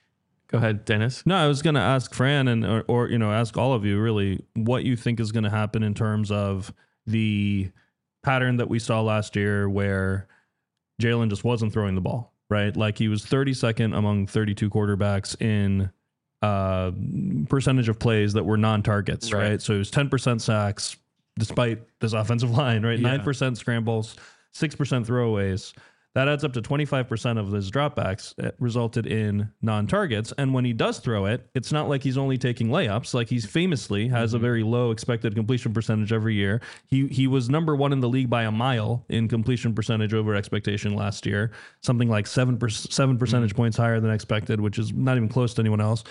Go ahead, Dennis. No, I was going to ask Fran and or, or you know ask all of you really what you think is going to happen in terms of the pattern that we saw last year where Jalen just wasn't throwing the ball, right? Like he was thirty-second among thirty-two quarterbacks in uh, percentage of plays that were non-targets, right? Right. So it was ten percent sacks despite this offensive line, right? Yeah. nine percent scrambles, six percent throwaways. That adds up to twenty-five percent of his dropbacks. It resulted in non-targets. And when he does throw it, it's not like he's only taking layups. Like he's famously has mm-hmm. a very low expected completion percentage every year. He he was number one in the league by a mile in completion percentage over expectation last year. Something like seven, per, seven percentage mm-hmm. points higher than expected, which is not even close to anyone else.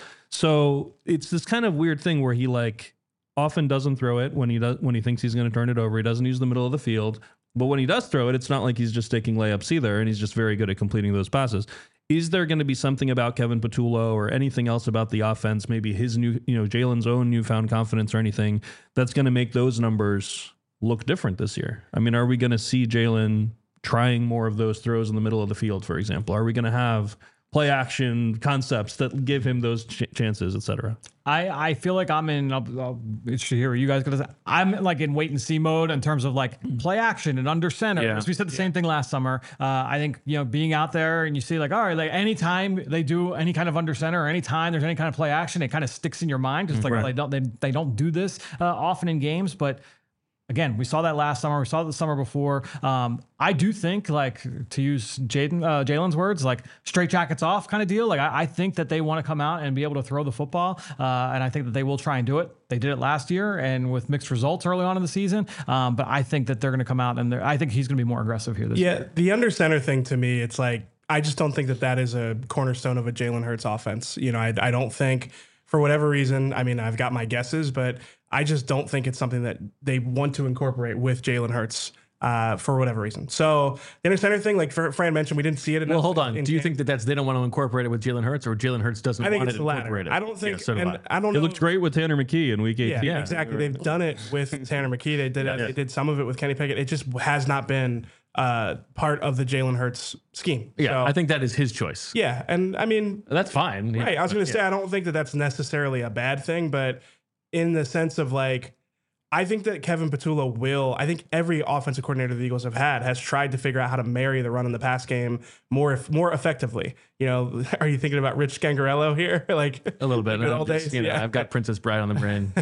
So it's this kind of weird thing where he like often doesn't throw it when he does when he thinks he's going to turn it over. He doesn't use the middle of the field. But when he does throw it, it's not like he's just taking layups either, and he's just very good at completing those passes. Is there going to be something about Kevin Patullo or anything else about the offense, maybe his new, you know, Jalen's own newfound confidence or anything that's going to make those numbers look different this year? I mean, are we going to see Jalen trying more of those throws in the middle of the field, for example? Are we going to have play action concepts that give him those ch- chances, et cetera? I, I feel like I'm in, I'll, I'll interested to hear what you guys going to say. I'm like in wait and see mode in terms of like play action and under center. Yeah. Because we said the yeah. same thing last summer. Uh, I think, you know, being out there and you see like, all right, like anytime they do any kind of under center or anytime there's any kind of play action, it kind of sticks in your mind because it's like, right. well, they don't, they, they don't do this uh, often in games, but again, we saw that last summer. We saw it the summer before. Um, I do think, like, to use Jaden, uh, Jalen's words, like straight jackets off kind of deal. Like, I, I think that they want to come out and be able to throw the football, uh, and I think that they will try and do it. They did it last year, and with mixed results early on in the season. Um, but I think that they're going to come out, and I think he's going to be more aggressive here this yeah, year. The under center thing to me, it's like I just don't think that that is a cornerstone of a Jalen Hurts offense. You know, I, I don't think for whatever reason. I mean, I've got my guesses, but I just don't think it's something that they want to incorporate with Jalen Hurts uh, for whatever reason. So the under center thing, like Fran mentioned, we didn't see it. Well, hold on. in Do you camp. think that that's they don't want to incorporate it with Jalen Hurts, or Jalen Hurts doesn't I think want it's it the latter. incorporated? I don't think. Yeah, so do and I. I don't It know. looked great with Tanner McKee in week eighteen. Yeah, Yeah. exactly. They've done it with Tanner McKee. They did. Yeah. They did some of it with Kenny Pickett. It just has not been uh, part of the Jalen Hurts scheme. Yeah, So, I think that is his choice. Yeah, and I mean, That's fine. right. I was going to say I don't think that that's necessarily a bad thing, but in the sense of like, I think that Kevin Patullo will. I think every offensive coordinator the Eagles have had has tried to figure out how to marry the run and the pass game more more effectively. You know, are you thinking about Rich Scangarello here? Like A little bit. Good I'm old just, days, you know, yeah. I've got Princess Bride on the brain.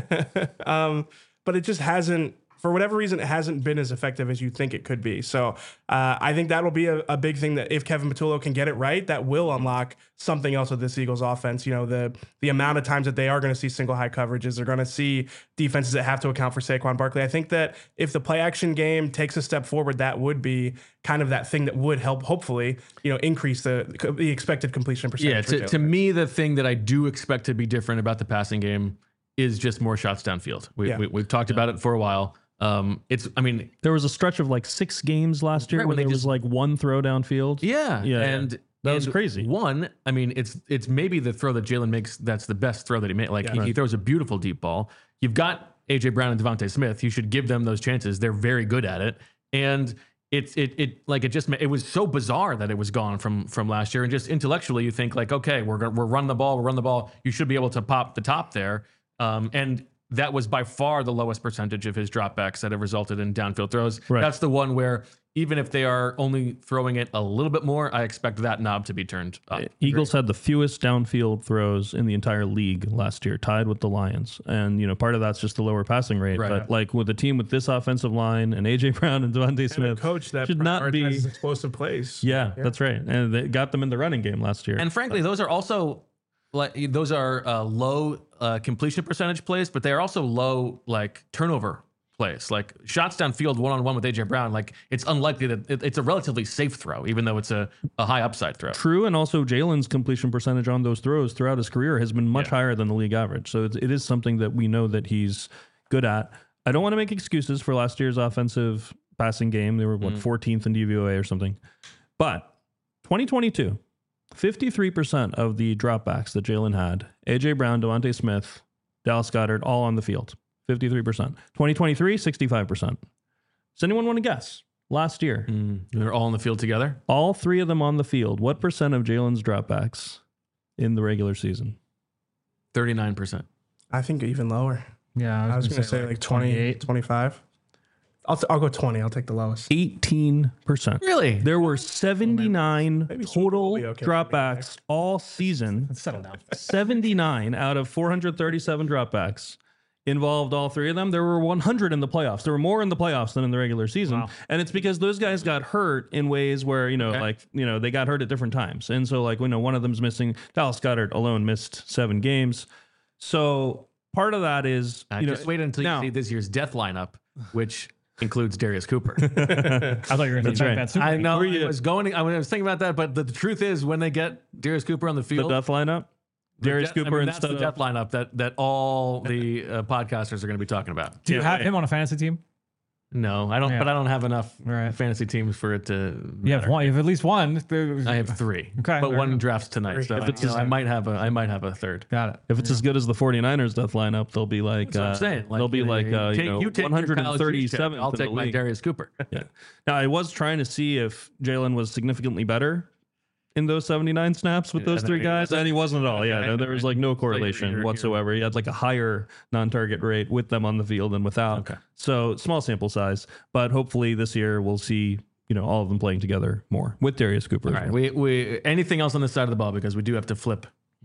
um, but it just hasn't, for whatever reason, it hasn't been as effective as you think it could be. So uh, I think that'll be a, a big thing that if Kevin Patullo can get it right, that will unlock something else with this Eagles offense. You know, the the amount of times that they are going to see single high coverages, they're going to see defenses that have to account for Saquon Barkley. I think that if the play action game takes a step forward, that would be kind of that thing that would help, hopefully, you know, increase the the expected completion percentage. Yeah, for to, Jalen to Hurts. me, the thing that I do expect to be different about the passing game is just more shots downfield. We, Yeah. we, we've talked about it for a while. Um, it's, I mean, There was a stretch of like six games last year Right, when when they there was just- like one throw downfield. yeah, Yeah, and That was and crazy. One, I mean, it's it's maybe the throw that Jalen makes that's the best throw that he made. Like Yeah. he, he Right. throws a beautiful deep ball. You've got A J Brown and Devontae Smith. You should give them those chances. They're very good at it, and it's it it like it just ma- it was so bizarre that it was gone from from last year. And just intellectually, you think like, okay, we're gonna, we're running the ball, we're running the ball. You should be able to pop the top there, um, and that was by far the lowest percentage of his dropbacks that have resulted in downfield throws. Right. That's the one where even if they are only throwing it a little bit more, I expect that knob to be turned up. Eagles had the fewest downfield throws in the entire league last year, tied with the Lions. And, you know, part of that's just the lower passing rate. Right. But like with a team with this offensive line and A J Brown and Devontae And a Smith, coach that should not be. prioritizes explosive plays. Yeah, that's right. And they got them in the running game last year. And frankly, those are also like those are uh, low uh, completion percentage plays, but they are also low like turnover plays. Like shots downfield one on one with A J Brown, like it's unlikely that it, it's a relatively safe throw, even though it's a, a high upside throw. True, and also Jalen's completion percentage on those throws throughout his career has been much Yeah. higher than the league average. So it's, it is something that we know that he's good at. I don't want to make excuses for last year's offensive passing game. They were, what, fourteenth in D V O A or something. But twenty twenty-two, fifty-three percent of the dropbacks that Jalen had, A J Brown, Devontae Smith, Dallas Goedert, all on the field. fifty-three percent. twenty twenty-three, sixty-five percent. Does anyone want to guess? Last year, Mm, they're all in the field together. all three of them on the field. What percent of Jalen's dropbacks in the regular season? thirty-nine percent. I think even lower. Yeah, I was going to say, like twenty, twenty-five. I'll, t- I'll go twenty. I'll take the lowest. eighteen percent. Really? There were seventy-nine Maybe some total will be okay. dropbacks all season. Let's settle down. seventy-nine out of four hundred thirty-seven dropbacks involved all three of them. There were one hundred in the playoffs. There were more in the playoffs than in the regular season. Wow. And it's because those guys got hurt in ways where, you know, Okay. like, you know, they got hurt at different times. And so, like, you know, one of them's missing. Dallas Goedert alone missed seven games. So part of that is, Uh, you know, just wait until now- you see this year's death lineup, which includes Darius Cooper. I thought you were going to right. say I know. Were I you- was going. I was thinking about that, but the, the truth is, when they get Darius Cooper on the the field, death lineup, the Darius death- I Cooper mean, that's instead the of death lineup that that all the uh, podcasters are going to be talking about. Do you Yeah, have right. him on a fantasy team? No, I don't. Yeah. But I don't have enough Right. fantasy teams for it to. You have matter. one. You have at least one. I have three. Okay, but fair one enough. drafts tonight, so If you know, I might have a. I might have a third. Got it. if it's as good as the 49ers death lineup, they'll be like, That's what uh, I'm saying. they'll be like, uh, take- you know, take your one Kyle Juszczyk, thirty-seventh I'll in take the my league. Darius Cooper. Yeah. Now I was trying to see if Jalen was significantly better in those seventy-nine snaps with those and three he guys, and he wasn't at all. Yeah, no, there was like no correlation you're- whatsoever. He had like a higher non-target rate with them on the field than without. Okay. So small sample size, but hopefully this year we'll see, you know, all of them playing together more with Darius Cooper. All as right. well. We we anything else on this side of the ball because we do have to flip.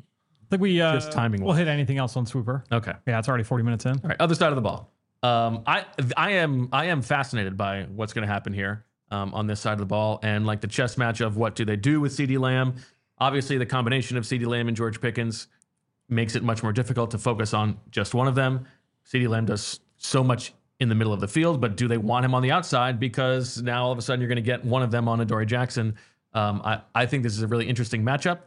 I think we uh, Just timing We'll wise. hit anything else on Swooper. Okay. Yeah, it's already forty minutes in. All right, other side of the ball. Um, I I am I am fascinated by what's going to happen here um, on this side of the ball, and like the chess match of what do they do with CeeDee Lamb. Obviously, the combination of CeeDee Lamb and George Pickens makes it much more difficult to focus on just one of them. CeeDee Lamb does so much in the middle of the field, but do they want him on the outside? Because now all of a sudden you're going to get one of them on Adoree Jackson. Um, I I think this is a really interesting matchup.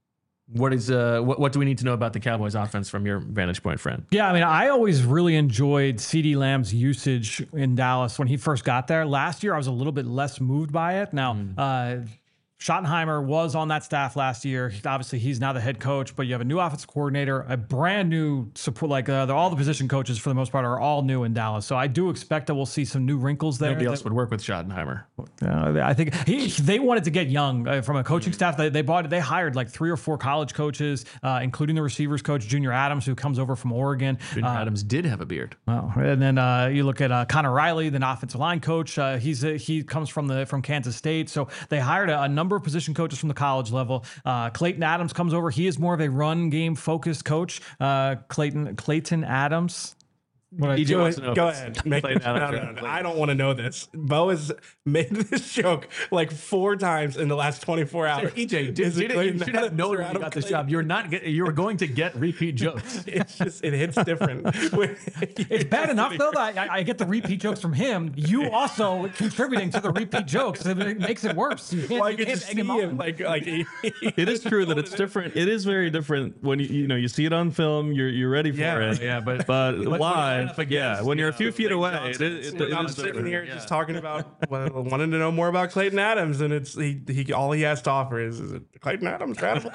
What is uh what, what do we need to know about the Cowboys offense from your vantage point, friend? Yeah, I mean, I always really enjoyed CeeDee Lamb's usage in Dallas when he first got there. Last year, I was a little bit less moved by it. Now, uh, Schottenheimer was on that staff last year. He- Obviously, he's now the head coach, but you have a new offensive coordinator, a brand new support. Like uh, they're- all the position coaches, for the most part, are all new in Dallas. So I do expect that we'll see some new wrinkles there. Nobody that- else would work with Schottenheimer. Uh, I think he, they wanted to get young uh, from a coaching staff. They, they bought, they hired like three or four college coaches, uh, including the receivers coach Junior Adams, who comes over from Oregon. Junior Uh, Adams did have a beard. Wow. And then uh, you look at uh, Connor Riley, the offensive line coach. Uh, he's a, he comes from the from Kansas State. So they hired a, a number of position coaches from the college level. Uh, Clayton Adams comes over. He is more of a run game focused coach. Uh, Clayton Clayton Adams. What I- E J Go, wants to know if go it's ahead. Make, no, Clayton no, Adams no, or I don't want to know this. Bo has made this joke like four times in the last twenty-four hours. E J, did, Is it did it, you Clayton should have Adams known or when you Adam got this Clayton? job. You're not. Get, you were going to get repeat jokes. It's just, it hits different. It's bad enough though that I, I get the repeat jokes from him. You also contributing to the repeat jokes. It makes it worse. You can't, Well, I you could can't just egg see him him on. like like. He, It is true that it's different. It is very different when you you know you see it on film. You're you're ready for Yeah, it. yeah, but- but when you're live, up against, yeah, when you're a few you know, feet Lane away, it, Johnson, it, it, when it I'm is sitting different. here yeah. just talking about well, wanting to know more about Clayton Adams, and it's he, he all he has to offer is is it Clayton Adams, Radical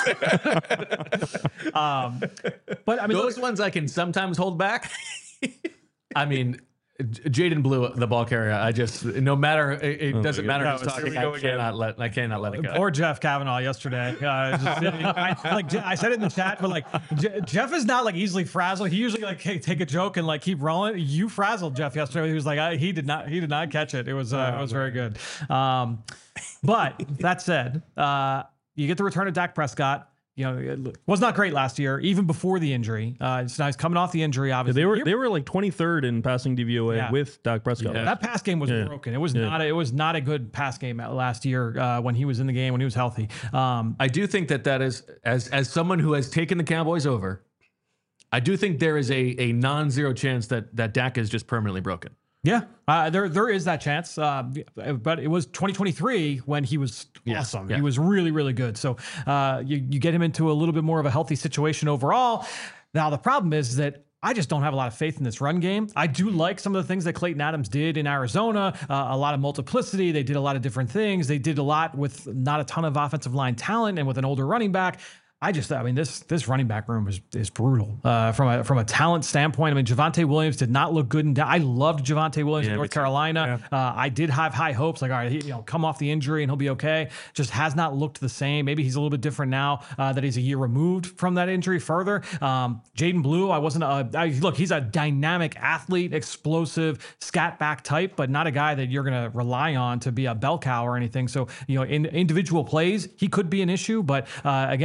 Clayton? Um, but I mean, Those look, ones I can sometimes hold back. I mean, J- Jaden Blue, the ball carrier. I just no matter. It, it doesn't God. matter No, who's it's- talking. here we go I again. cannot let. I cannot let it go. or Jeff Kavanaugh yesterday. Uh, just, I, like I said it in the chat, but like Je- Jeff is not like easily frazzled. He usually like hey, take a joke and like keep rolling. You frazzled Jeff yesterday. He was like I, he did not he did not catch it. It was uh, it was very good. Um, but that said, uh, you get the return of Dak Prescott. You know, it was not great last year, even before the injury. Uh, it's nice coming off the injury. Obviously, They were Here- they were like twenty-third in passing D V O A Yeah. with Dak Prescott. Yeah. that pass game was Yeah. broken. It was Yeah. not. A, it was not a good pass game last year uh, when he was in the game when he was healthy. Um, I do think that that is as as someone who has taken the Cowboys over. I do think there is a a non-zero chance that that Dak is just permanently broken. Yeah, uh, there there is that chance, uh, but it was twenty twenty-three when he was Yeah, awesome. yeah. He was really really good. So uh, you you get him into a little bit more of a healthy situation overall. Now the problem is that I just don't have a lot of faith in this run game. I do like some of the things that Clayton Adams did in Arizona, uh, a lot of multiplicity. They did a lot of different things. They did a lot with not a ton of offensive line talent and with an older running back. I just, I mean, this this running back room is is brutal uh, from a from a talent standpoint. I mean, Javonte Williams did not look good, and I loved Javonte Williams Yeah, in me North too. Carolina. Uh, I did have high hopes, like, all right, he, you know, come off the injury and he'll be okay. Just has not looked the same. Maybe he's a little bit different now uh, that he's a year removed from that injury. Further, um, Jaden Blue, I wasn't. A, I, look, he's a dynamic athlete, explosive, scat back type, but not a guy that you're going to rely on to be a bell cow or anything. So, you know, in individual plays, he could be an issue, but uh, again, not a guy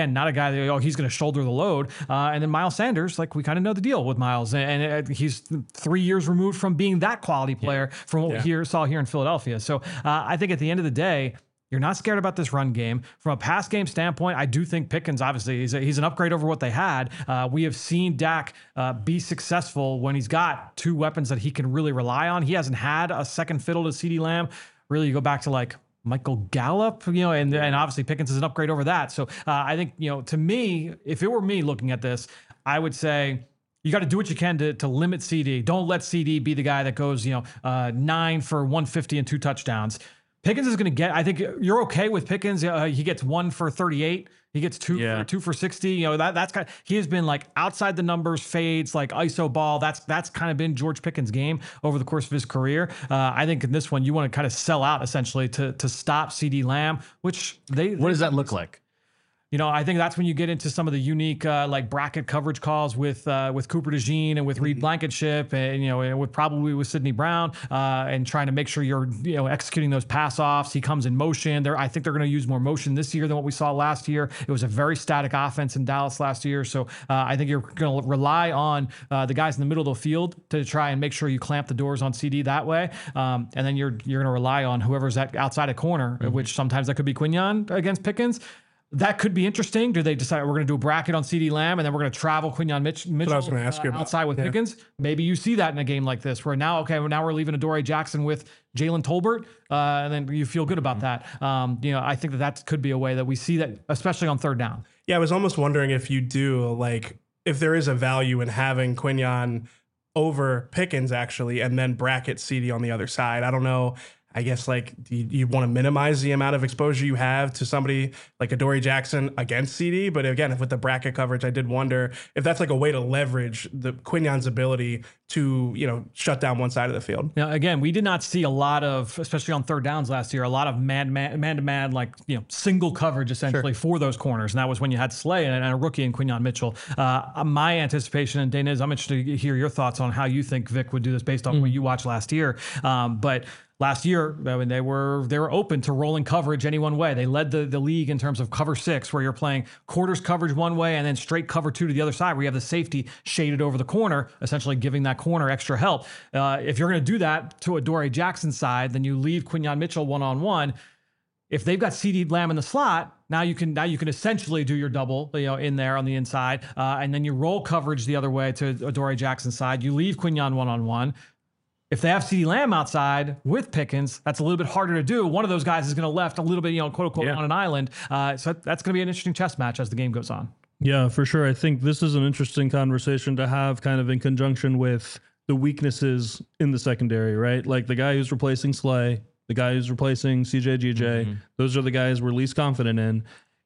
guy that, oh, he's going to shoulder the load. Uh, and then Miles Sanders, like we kind of know the deal with Miles, and, and uh, he's three years removed from being that quality player yeah. from what yeah. we here, saw here in Philadelphia. So uh, I think at the end of the day, you're not scared about this run game. From a pass game standpoint, I do think Pickens, obviously, he's, a, he's an upgrade over what they had. Uh, we have seen Dak uh, be successful when he's got two weapons that he can really rely on. He hasn't had a second fiddle to CeeDee Lamb. Really, you go back to like Michael Gallup, you know, and, and obviously Pickens is an upgrade over that. So uh, I think, you know, to me, if it were me looking at this, I would say, you got to do what you can to, to limit C D. Don't let C D be the guy that goes, you know, uh, nine for one fifty and two touchdowns. Pickens is going to get, I think you're okay with Pickens. Uh, he gets one for thirty-eight. He gets two, yeah. for, two for sixty. You know, that that's kind of, he has been like outside the numbers, fades, like I S O ball. That's, that's kind of been George Pickens' game over the course of his career. Uh, I think in this one, you want to kind of sell out essentially to, to stop CeeDee Lamb, which they, what does that look like? You know, I think that's when you get into some of the unique uh, like bracket coverage calls with uh, with Cooper DeJean and with Reed Blankenship, and you know, and with probably with Sidney Brown, uh, and trying to make sure you're you know executing those pass offs. He comes in motion. There, I think they're going to use more motion this year than what we saw last year. It was a very static offense in Dallas last year, so uh, I think you're going to rely on uh, the guys in the middle of the field to try and make sure you clamp the doors on C D that way, um, and then you're you're going to rely on whoever's at outside a corner, mm-hmm. which sometimes that could be Quinyon against Pickens. That could be interesting. Do they decide we're going to do a bracket on CeeDee Lamb and then we're going to travel Quinyon Mitch, Mitchell I was gonna ask uh, you about. outside with Yeah. Pickens? Maybe you see that in a game like this where now, okay, well, now we're leaving Adoree Jackson with Jalen Tolbert, uh, and then you feel good about that. Um, you know, I think that that could be a way that we see that, especially on third down. Yeah, I was almost wondering if you do, like, if there is a value in having Quinyon over Pickens, actually, and then bracket C D on the other side. I don't know. I guess, like, do you, you want to minimize the amount of exposure you have to somebody like Adoree Jackson against C D. But again, if with the bracket coverage, I did wonder if that's like a way to leverage the Quinyon's ability to, you know, shut down one side of the field. Now, again, we did not see a lot of, especially on third downs last year, a lot of man, man, man to man, like, you know, single coverage essentially sure. for those corners. And that was when you had Slay and, and a rookie in Quinyon Mitchell. Uh, my anticipation, and Dana, is I'm interested to hear your thoughts on how you think Vic would do this based on mm. what you watched last year. Um, but Last year, I mean, they were they were open to rolling coverage any one way. They led the, the league in terms of cover six, where you're playing quarters coverage one way and then straight cover two to the other side, where you have the safety shaded over the corner, essentially giving that corner extra help. Uh, if you're going to do that to Adoree Jackson's side, then you leave Quinyon Mitchell one-on-one. If they've got CeeDee Lamb in the slot, now you can now you can essentially do your double, you know, in there on the inside, uh, and then you roll coverage the other way to Adoree Jackson's side. You leave Quinyon one-on-one. If they have CeeDee Lamb outside with Pickens, that's a little bit harder to do. One of those guys is going to left a little bit, you know, quote unquote, yeah. on an island. Uh, so that's going to be an interesting chess match as the game goes on. Yeah, for sure. I think this is an interesting conversation to have kind of in conjunction with the weaknesses in the secondary, right? Like the guy who's replacing Slay, the guy who's replacing C J G J. Mm-hmm. Those are the guys we're least confident in.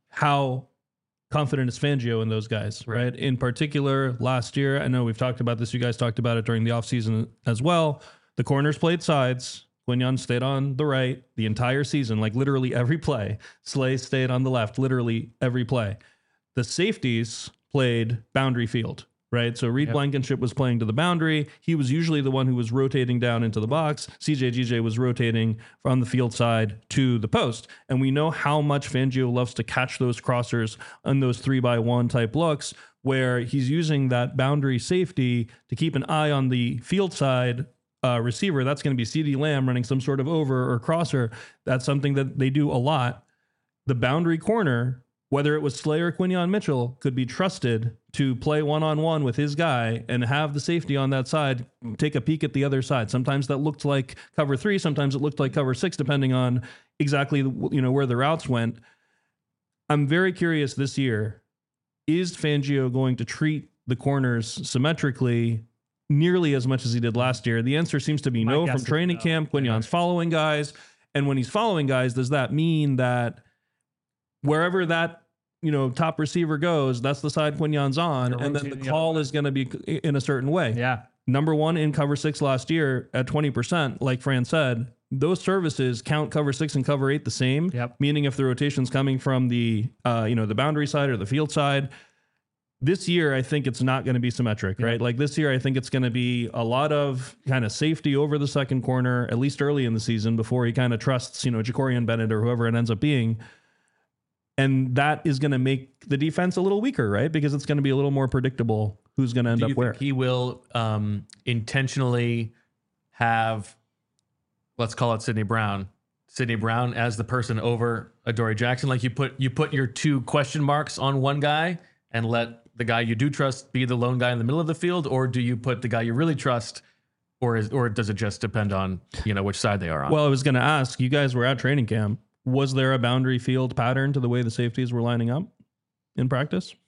How confident is Fangio in those guys, right? right? In particular, last year, I know we've talked about this. You guys talked about it during the offseason as well. The corners played sides. Quinyon stayed on the right the entire season, like literally every play. Slay stayed on the left, literally every play. The safeties played boundary field, right? So Reed yep. Blankenship was playing to the boundary. He was usually the one who was rotating down into the box. C J G J was rotating from the field side to the post. And we know how much Fangio loves to catch those crossers on those three by one type looks, where he's using that boundary safety to keep an eye on the field side Uh, receiver. That's going to be CeeDee Lamb running some sort of over or crosser. That's something that they do a lot. The boundary corner, whether it was Slay or Quinyon Mitchell, could be trusted to play one-on-one with his guy and have the safety on that side take a peek at the other side. Sometimes that looked like cover three. Sometimes it looked like cover six, depending on exactly, you know, where the routes went. I'm very curious this year, is Fangio going to treat the corners symmetrically nearly as much as he did last year? The answer seems to be no from training camp. Quinyon's following guys. And when he's following guys, does that mean that wherever that, you know, top receiver goes, that's the side Quinyon's on, and then the call is going to be in a certain way? Yeah. Number one in cover six last year at twenty percent, like Fran said, those services count cover six and cover eight the same, yep. meaning if the rotation's coming from the, uh, you know, the boundary side or the field side. This year, I think it's not going to be symmetric, right? Yeah. Like this year, I think it's going to be a lot of kind of safety over the second corner, at least early in the season, before he kind of trusts, you know, Jacorian Bennett or whoever it ends up being. And that is going to make the defense a little weaker, right? Because it's going to be a little more predictable who's going to end Do up you where. think he will um, intentionally have, let's call it Sidney Brown, Sidney Brown as the person over Adoree Jackson? Like you put you put your two question marks on one guy and let the guy you do trust be the lone guy in the middle of the field, or do you put the guy you really trust, or is or does it just depend on, you know, which side they are on? Well, I was going to ask, you guys were at training camp. Was there a boundary field pattern to the way the safeties were lining up in practice?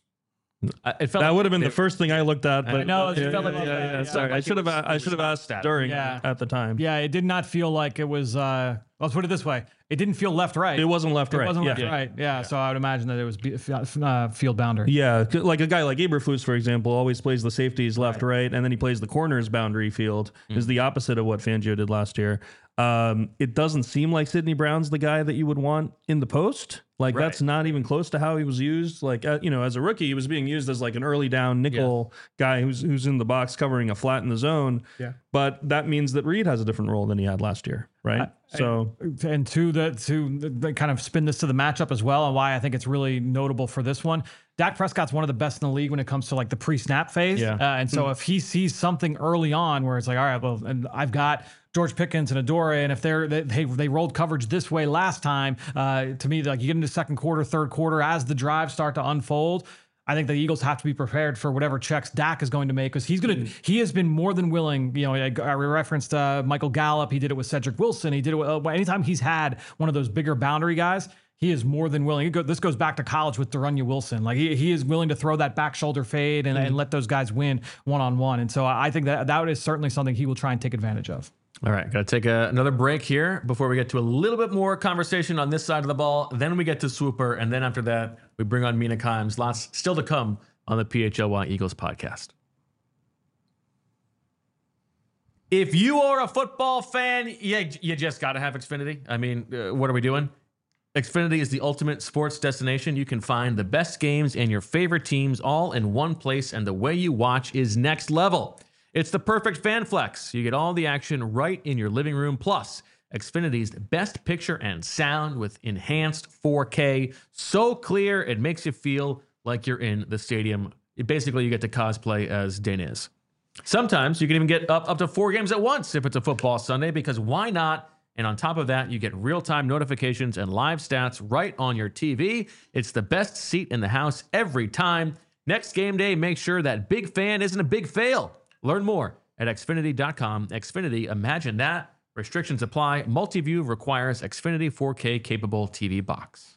I- it felt That like would have been they- the first thing I looked at. But know, it yeah, felt like- yeah, yeah, yeah, yeah, sorry, like I it should have. was- I it should have was asked stat. during Yeah. at the time. Yeah, it did not feel like it was. Uh, let's put it this way: it didn't feel left right. It wasn't left It right. wasn't yeah. left right. Yeah, so I would imagine that it was be- uh, field boundary. Yeah, c- like a guy like Eberflus, for example, always plays the safeties left, right, and then he plays the corners boundary field. Is the opposite of what Fangio did last year. Um, it doesn't seem like Sidney Brown's the guy that you would want in the post. Like Right. that's not even close to how he was used. Like uh, you know, as a rookie, he was being used as like an early down nickel guy who's who's in the box covering a flat in the zone. Yeah. But that means that Reed has a different role than he had last year, right? so And to the to the, the kind of spin this to the matchup as well, and why I think it's really notable for this one. Dak Prescott's one of the best in the league when it comes to like the pre-snap phase. Yeah. Uh, and so if he sees something early on where it's like, all right, well, and I've got George Pickens and Adoree, and if they're they they, they rolled coverage this way last time, uh, to me, like you get into second quarter, third quarter, as the drives start to unfold, I think the Eagles have to be prepared for whatever checks Dak is going to make, because he's going to he has been more than willing. You know, I, I referenced uh, Michael Gallup. He did it with Cedric Wilson. He did it with, uh, anytime he's had one of those bigger boundary guys. He is more than willing. Go, this goes back to college with Darunya Wilson. Like he, he is willing to throw that back shoulder fade and, and let those guys win one on one. And so I think that that is certainly something he will try and take advantage of. All right, got to take a, another break here before we get to a little bit more conversation on this side of the ball. Then we get to Swooper, and then after that, we bring on Mina Kimes. Lots still to come on the P H L Y Eagles podcast. If you are a football fan, you, you just got to have Xfinity. I mean, uh, what are we doing? Xfinity is the ultimate sports destination. You can find the best games and your favorite teams all in one place, and the way you watch is next level. It's the perfect fan flex. You get all the action right in your living room. Plus, Xfinity's best picture and sound with enhanced four K. So clear, it makes you feel like you're in the stadium. It, basically, you get to cosplay as Daniz. Sometimes you can even get up, up to four games at once if it's a football Sunday, because why not? And on top of that, you get real-time notifications and live stats right on your T V. It's the best seat in the house every time. Next game day, make sure that big fan isn't a big fail. Learn more at Xfinity dot com. Xfinity, imagine that. Restrictions apply. Multiview requires Xfinity four K capable T V box.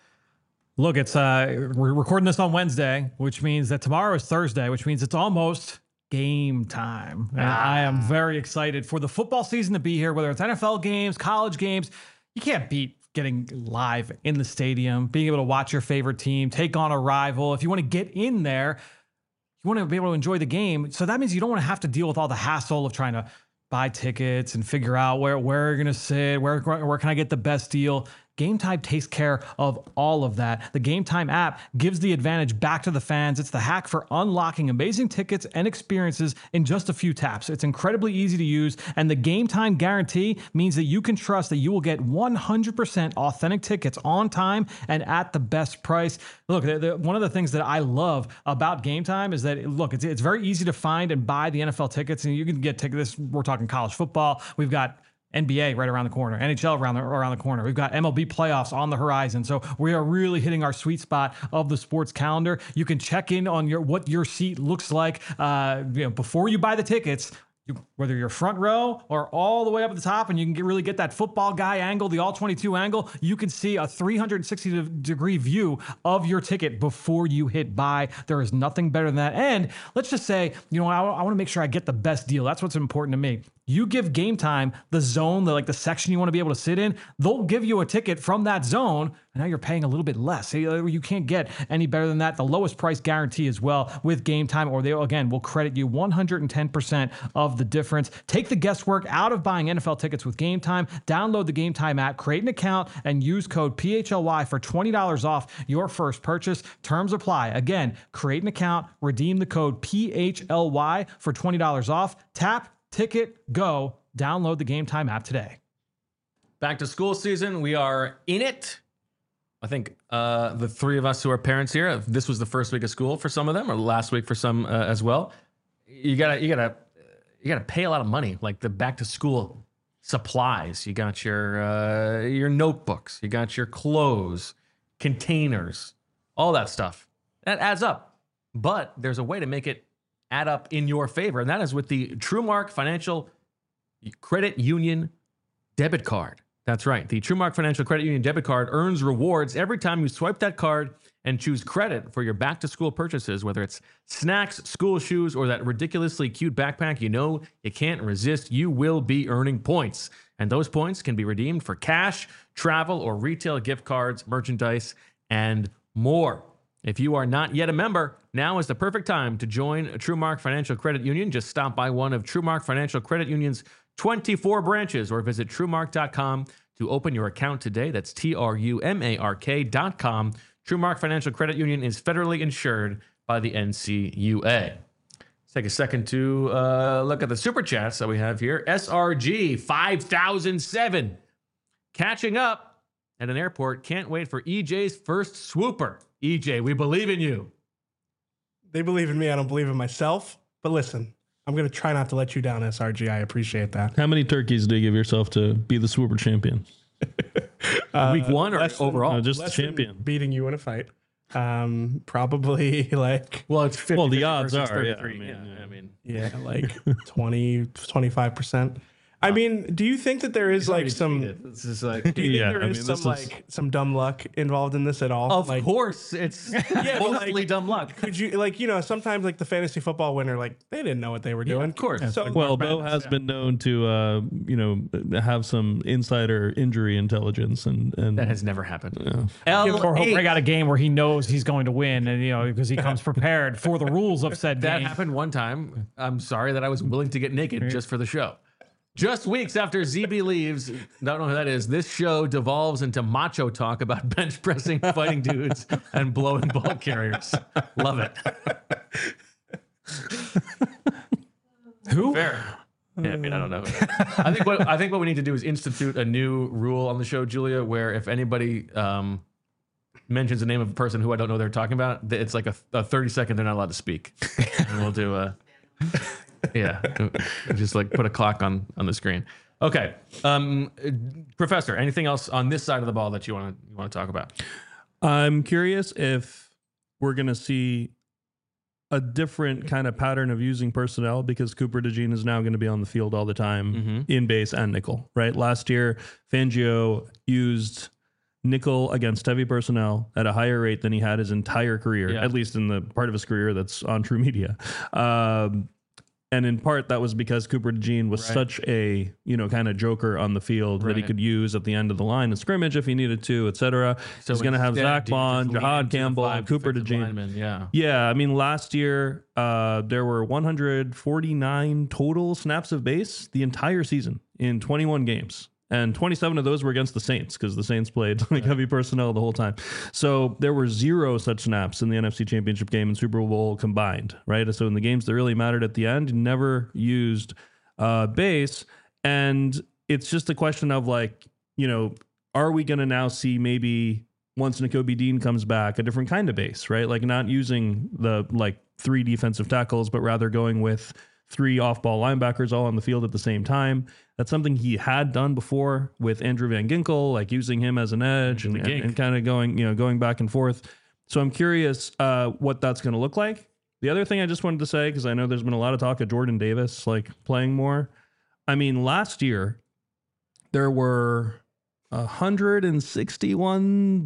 Look, it's uh, we're recording this on Wednesday, which means that tomorrow is Thursday, which means it's almost game time. And I am very excited for the football season to be here, whether it's N F L games, college games. You can't beat getting live in the stadium, being able to watch your favorite team, take on a rival. If you want to get in there, you want to be able to enjoy the game. So that means you don't want to have to deal with all the hassle of trying to buy tickets and figure out where, where you're going to sit, where, where can I get the best deal. Game Time takes care of all of that. The Game Time app gives the advantage back to the fans. It's the hack for unlocking amazing tickets and experiences in just a few taps. It's incredibly easy to use, and the Game Time guarantee means that you can trust that you will get one hundred percent authentic tickets on time and at the best price. Look, the, the, one of the things that I love about Game Time is that, look, it's, it's very easy to find and buy the N F L tickets, and you can get tickets. We're talking college football. We've got N B A right around the corner, N H L around the, around the corner. We've got M L B playoffs on the horizon. So we are really hitting our sweet spot of the sports calendar. You can check in on your what your seat looks like uh, you know, before you buy the tickets. You, whether you're front row or all the way up at the top, and you can get, really get that football guy angle, the all twenty-two angle, you can see a three hundred sixty degree view of your ticket before you hit buy. There is nothing better than that. And let's just say, you know, I, I want to make sure I get the best deal. That's what's important to me. You give Game Time the zone, the, like the section you want to be able to sit in, they'll give you a ticket from that zone, and now you're paying a little bit less. You can't get any better than that. The lowest price guarantee as well with Game Time, or they, again, will credit you one hundred ten percent of the difference. Take the guesswork out of buying N F L tickets with Game Time. Download the Game Time app, create an account, and use code P H L Y for twenty dollars off your first purchase. Terms apply. Again, create an account, redeem the code P H L Y for twenty dollars off. Tap, ticket, go. Download the Game Time app today. Back to school season. We are in it. I think uh, the three of us who are parents here, this was the first week of school for some of them, or last week for some uh, as well. You gotta, you gotta, you gotta pay a lot of money, like the back to school supplies. You got your uh, your notebooks, you got your clothes, containers, all that stuff. That adds up. But there's a way to make it add up in your favor, and that is with the TrueMark Financial Credit Union debit card. That's right. The TrueMark Financial Credit Union debit card earns rewards every time you swipe that card and choose credit for your back-to-school purchases, whether it's snacks, school shoes, or that ridiculously cute backpack you know you can't resist. You will be earning points, and those points can be redeemed for cash, travel, or retail gift cards, merchandise, and more. If you are not yet a member, now is the perfect time to join TrueMark Financial Credit Union. Just stop by one of TrueMark Financial Credit Union's twenty-four branches or visit TrueMark dot com to open your account today. That's T R U M A R K dot com. TrueMark Financial Credit Union is federally insured by the N C U A. Let's take a second to uh, look at the super chats that we have here. S R G five thousand seven. Catching up at an airport. Can't wait for E J's first swooper. E J, we believe in you. They believe in me. I don't believe in myself. But listen, I'm going to try not to let you down, S R G. I appreciate that. How many turkeys do you give yourself to be the swooper champion? uh, Week one or than, overall? No, just the champion. Beating you in a fight. Um, probably like... Well, it's fifty, well, the odds are, yeah. I mean, yeah, yeah, I mean, yeah, like twenty, twenty-five percent. I mean, do you think that there is like some... This is like, Do you Yeah, think there I is mean, some this is- like some dumb luck involved in this at all? of like, course, it's but mostly like- dumb luck. Could you like you know sometimes like the fantasy football winner like they didn't know what they were doing. of course. So Well, Bo has been known to, uh, you know, have some insider injury intelligence, and and That has never happened. Or L he'll eight. break out a game where he knows he's going to win, and you know because he comes prepared for the rules of said That game. happened one time. I'm sorry that I was willing to get naked just for the show. Just weeks after Z B leaves, don't know who that is, this show devolves into macho talk about bench pressing, fighting dudes, and blowing ball carriers. Love it. Who? Fair. Yeah, I mean, I don't know. I think what I think what we need to do is institute a new rule on the show, Julia, where if anybody um, mentions the name of a person who I don't know they're talking about, th- it's like a, a thirty second they're not allowed to speak. And we'll do a yeah, just like put a clock on on the screen. Okay, um, uh, Professor, anything else on this side of the ball that you want to you want to talk about? I'm curious if we're going to see a different kind of pattern of using personnel, because Cooper DeJean is now going to be on the field all the time Mm-hmm. in base and nickel, right? Last year, Fangio used nickel against heavy personnel at a higher rate than he had his entire career, Yeah. at least in the part of his career that's on True Media. Um, and in part, that was because Cooper DeJean was Right. such a, you know, kind of joker on the field that he Right. could use at the end of the line of scrimmage if he needed to, et cetera. So He's going to have instead, Zach do you Bond, just lean Jahad into the Campbell, five and Cooper defensive DeJean. linemen? Yeah. Yeah, I mean, last year uh, there were one hundred forty-nine total snaps of base the entire season in twenty-one games. And twenty-seven of those were against the Saints, because the Saints played like heavy personnel the whole time. So there were zero such snaps in the N F C Championship game and Super Bowl combined, right? So in the games that really mattered at the end, he never used uh, base. And it's just a question of like, you know, are we going to now see maybe once Nakobe Dean comes back, a different kind of base, right? Like not using the like three defensive tackles, but rather going with three off-ball linebackers all on the field at the same time. That's something he had done before with Andrew Van Ginkel, like using him as an edge and, and, and kind of going, you know, going back and forth. So I'm curious uh, what that's going to look like. The other thing I just wanted to say, because I know there's been a lot of talk of Jordan Davis like playing more. I mean, last year there were one hundred sixty-one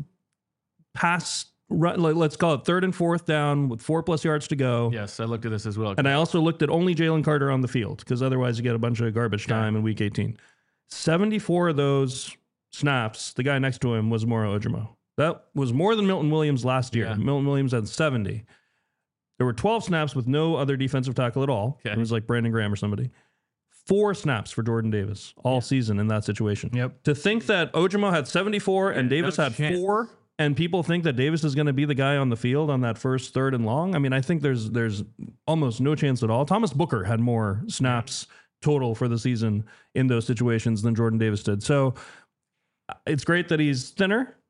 pass run, like, let's call it third and fourth down with four plus yards to go. Yes, I looked at this as well. And I also looked at only Jalen Carter on the field, because otherwise you get a bunch of garbage time in week eighteen. seventy-four of those snaps, the guy next to him was Moro Ojomo. That was more than Milton Williams last year. Yeah. Milton Williams had seventy. There were twelve snaps with no other defensive tackle at all. Okay. It was like Brandon Graham or somebody. Four snaps for Jordan Davis all season in that situation. Yep. To think that Ojomo had seventy-four and Davis no had chance. four, and people think that Davis is going to be the guy on the field on that first third and long. I mean, I think there's there's almost no chance at all. Thomas Booker had more snaps total for the season in those situations than Jordan Davis did. So it's great that he's thinner.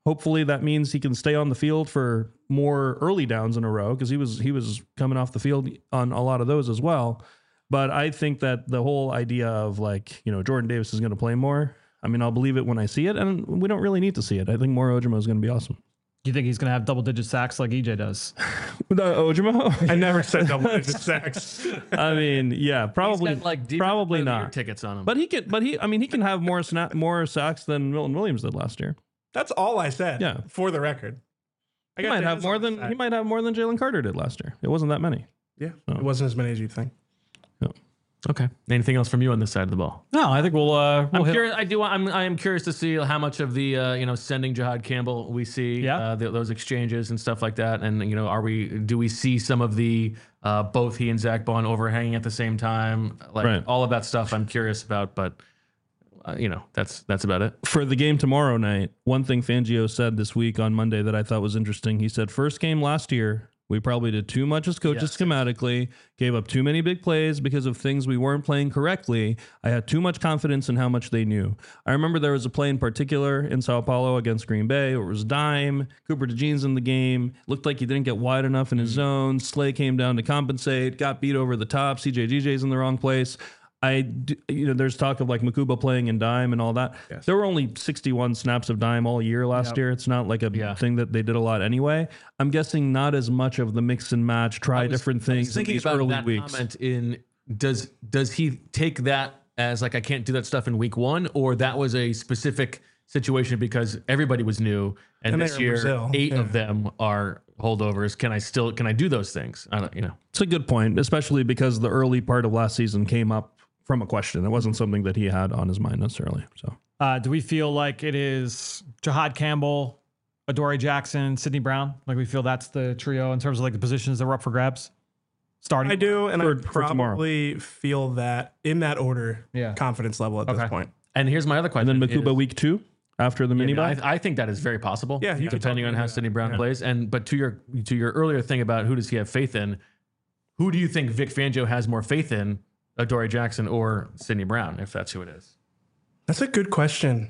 Hopefully that means he can stay on the field for more early downs in a row because he was he was coming off the field on a lot of those as well. But I think that the whole idea of like, you know, Jordan Davis is going to play more. I mean, I'll believe it when I see it, and we don't really need to see it. I think Moro Ojomo is going to be awesome. You think he's going to have double-digit sacks like E J does? The Ojomo? I never said double-digit sacks. I mean, yeah, probably, He's got, like, probably defensive not. tickets on him. But he can, but he, I mean, he can have more snap, more sacks than Milton Williams did last year. That's all I said. Yeah. For the record, I He got might have Davis more on my than side. he might have more than Jalen Carter did last year. It wasn't that many. Yeah, No. it wasn't as many as you think. No. Okay. Anything else from you on this side of the ball? No, I think we'll. Uh, we'll I'm hit- curious. I do. I'm. I am curious to see how much of the uh, you know sending Jahad Campbell we see. Yeah. Uh, the, those exchanges and stuff like that. And you know, are we? Do we see some of the uh, both he and Zach Bond overhanging at the same time? Like Right. all of that stuff. I'm curious about. But uh, you know, that's that's about it. For the game tomorrow night, one thing Fangio said this week on Monday that I thought was interesting. He said, first game last year, we probably did too much as coaches Yes. schematically, gave up too many big plays because of things we weren't playing correctly. I had too much confidence in how much they knew. I remember there was a play in particular in Sao Paulo against Green Bay. It was dime. Cooper DeJean's in the game. Looked like he didn't get wide enough in his zone. Slay came down to compensate, got beat over the top. C J G J's in the wrong place. I, do, you know, there's talk of like Makuba playing in dime and all that. Yes. There were only sixty-one snaps of dime all year last Yep. year. It's not like a Yeah. thing that they did a lot anyway. I'm guessing not as much of the mix and match, try I was- different I was things in thinking these about early that weeks. comment in does does he take that as like I can't do that stuff in week one, or that was a specific situation because everybody was new and, And they this were in year Brazil. eight Yeah. of them are holdovers. Can I still can I do those things? I don't you know. It's a good point, especially because the early part of last season came up from a question. It wasn't something that he had on his mind necessarily. So Uh, do we feel like it is Jahad Campbell, Adoree Jackson, Sidney Brown? Like we feel that's the trio in terms of like the positions that were up for grabs? Starting. I do, and For- I for tomorrow. probably feel that in that order, Yeah. confidence level at Okay. this point. And here's my other question. and then Makuba is- week two after the Yeah, mini I, bye. I think that is very possible. Yeah, you could depending talk on about how that. Sidney Brown Yeah. plays. And but to your to your earlier thing about who does he have faith in, who do you think Vic Fangio has more faith in, Adoree Jackson or Sidney Brown, if that's who it is? That's a good question.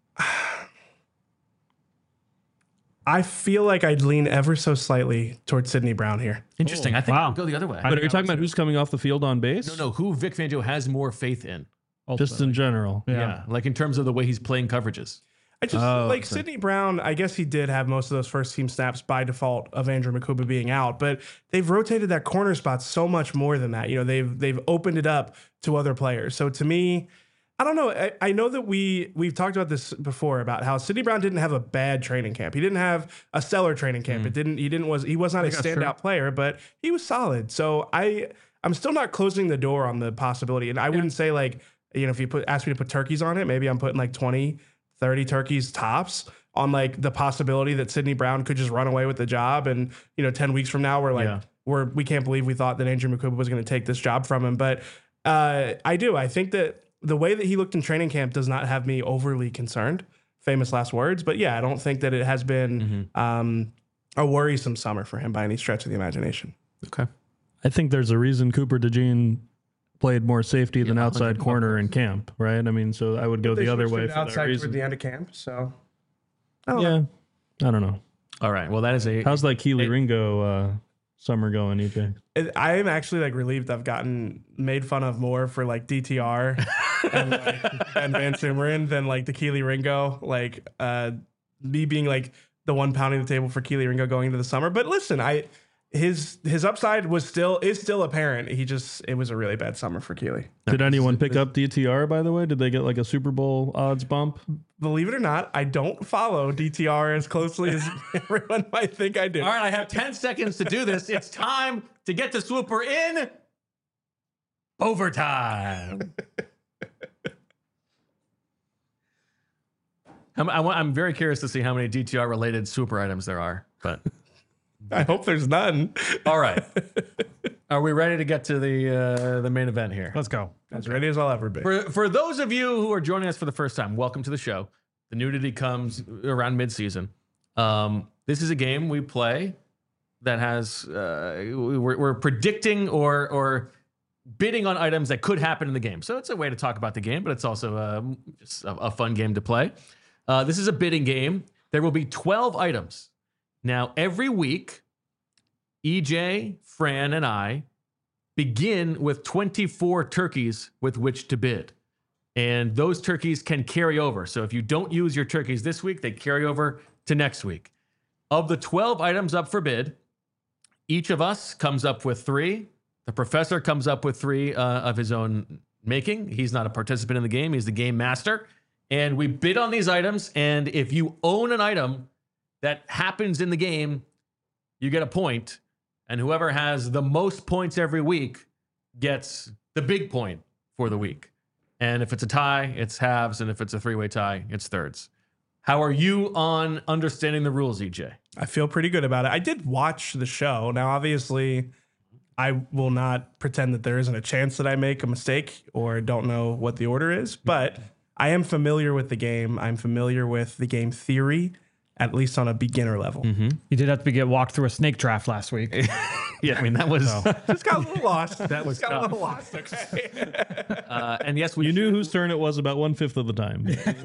I feel like I'd lean ever so slightly towards Sidney Brown here. Interesting. I think wow. I'll go the other way. But are you talking about who's coming off the field on base? no, no, who Vic Fangio has more faith in. Just in general. Yeah. Yeah. Like in terms of the way he's playing coverages. I just Oh, like okay. Sidney Brown. I guess he did have most of those first team snaps by default of Andrew Makuba being out, but they've rotated that corner spot so much more than that. You know, they've they've opened it up to other players. So to me, I don't know. I, I know that we we've talked about this before about how Sidney Brown didn't have a bad training camp. He didn't have a stellar training camp. It didn't. He didn't was he was not a think that's true. standout player, but he was solid. So I I'm still not closing the door on the possibility. And I wouldn't say like, you know, if you put ask me to put turkeys on it, maybe I'm putting like twenty, thirty turkeys tops on like the possibility that Sidney Brown could just run away with the job. And, you know, ten weeks from now, we're like, Yeah. we're, we can't believe we thought that Andrew Makuba was going to take this job from him. But uh, I do. I think that the way that he looked in training camp does not have me overly concerned. Famous last words. But yeah, I don't think that it has been um, a worrisome summer for him by any stretch of the imagination. Okay. I think there's a reason Cooper DeJean played more safety than Yeah, outside one hundred corner in camp, right? I mean, so I would go They the other switched way it for that outside toward reason. the end of camp. So I don't know. Yeah, I don't know. All right. Well, that is a How's that Keely Hey. Ringo uh, summer going, E J? It- I am actually like relieved I've gotten made fun of more for like D T R and like Ben Van Sumeren than like the Keely Ringo. Like uh, me being like the one pounding the table for Keely Ringo going into the summer. But listen, I his his upside was still is still apparent. He just it was a really bad summer for Keely. Did anyone pick up D T R, by the way? Did they get like a Super Bowl odds bump? Believe it or not, I don't follow D T R as closely as everyone might think I do. All right, I have ten seconds to do this. It's time to get to Swooper in overtime. I'm, I want, I'm very curious to see how many D T R related Swooper items there are. But I hope there's none. all right, are we ready to get to the uh, the main event here? Let's go. As ready as I'll ever be. For for those of you who are joining us for the first time, welcome to the show. The nudity comes around midseason. Um, this is a game we play that has uh, we're, we're predicting or or bidding on items that could happen in the game. So it's a way to talk about the game, but it's also uh, just a, a fun game to play. Uh, this is a bidding game. There will be twelve items. Now, every week, E J, Fran, and I begin with twenty-four turkeys with which to bid. And those turkeys can carry over. So if you don't use your turkeys this week, they carry over to next week. Of the twelve items up for bid, each of us comes up with three. The professor comes up with three uh, of his own making. He's not a participant in the game. He's the game master. And we bid on these items. And if you own an item that happens in the game, you get a point. And whoever has the most points every week gets the big point for the week. And if it's a tie, it's halves. And if it's a three-way tie, it's thirds. How are you on understanding the rules, E J? I feel pretty good about it. I did watch the show. Now, obviously, I will not pretend that there isn't a chance that I make a mistake or don't know what the order is, but I am familiar with the game. I'm familiar with the game theory, at least on a beginner level. Mm-hmm. You did have to get walked through a snake draft last week. Yeah, I mean, that was... So, just got a little lost. That was just got tough. a little lost, okay? uh, and yes, we You knew whose turn it was about one-fifth of the time.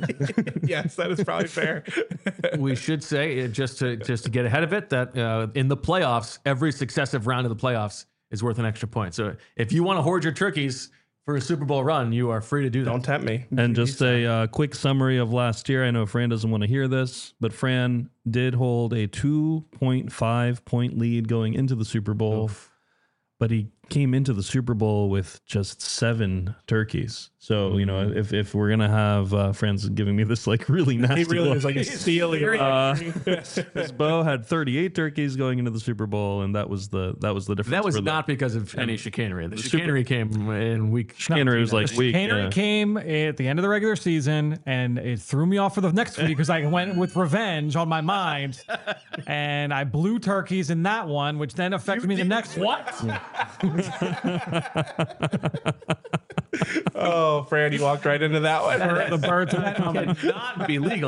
Yes, that is probably fair. we should say, uh, just to just to get ahead of it, that uh, in the playoffs, every successive round of the playoffs is worth an extra point. So if you want to hoard your turkeys for a Super Bowl run, you are free to do that. Don't tempt me. And just a uh, quick summary of last year. I know Fran doesn't want to hear this, but Fran did hold a two point five point lead going into the Super Bowl. Oof. But he came into the Super Bowl with just seven turkeys. So, you know, if, if we're going to have uh, Fran's giving me this like really nasty He really look. is like a stealing. Uh, his Bo had thirty-eight turkeys going into the Super Bowl, and that was the that was the difference. That was for not them. because of any chicanery. The, the chicanery Super, came in week. Chicanery was like week. Chicanery yeah. came at the end of the regular season, and it threw me off for the next week because I went with revenge on my mind, and I blew turkeys in that one, which then affected me the next one. Oh, Fran, you walked right into that one. The birds that cannot be legal.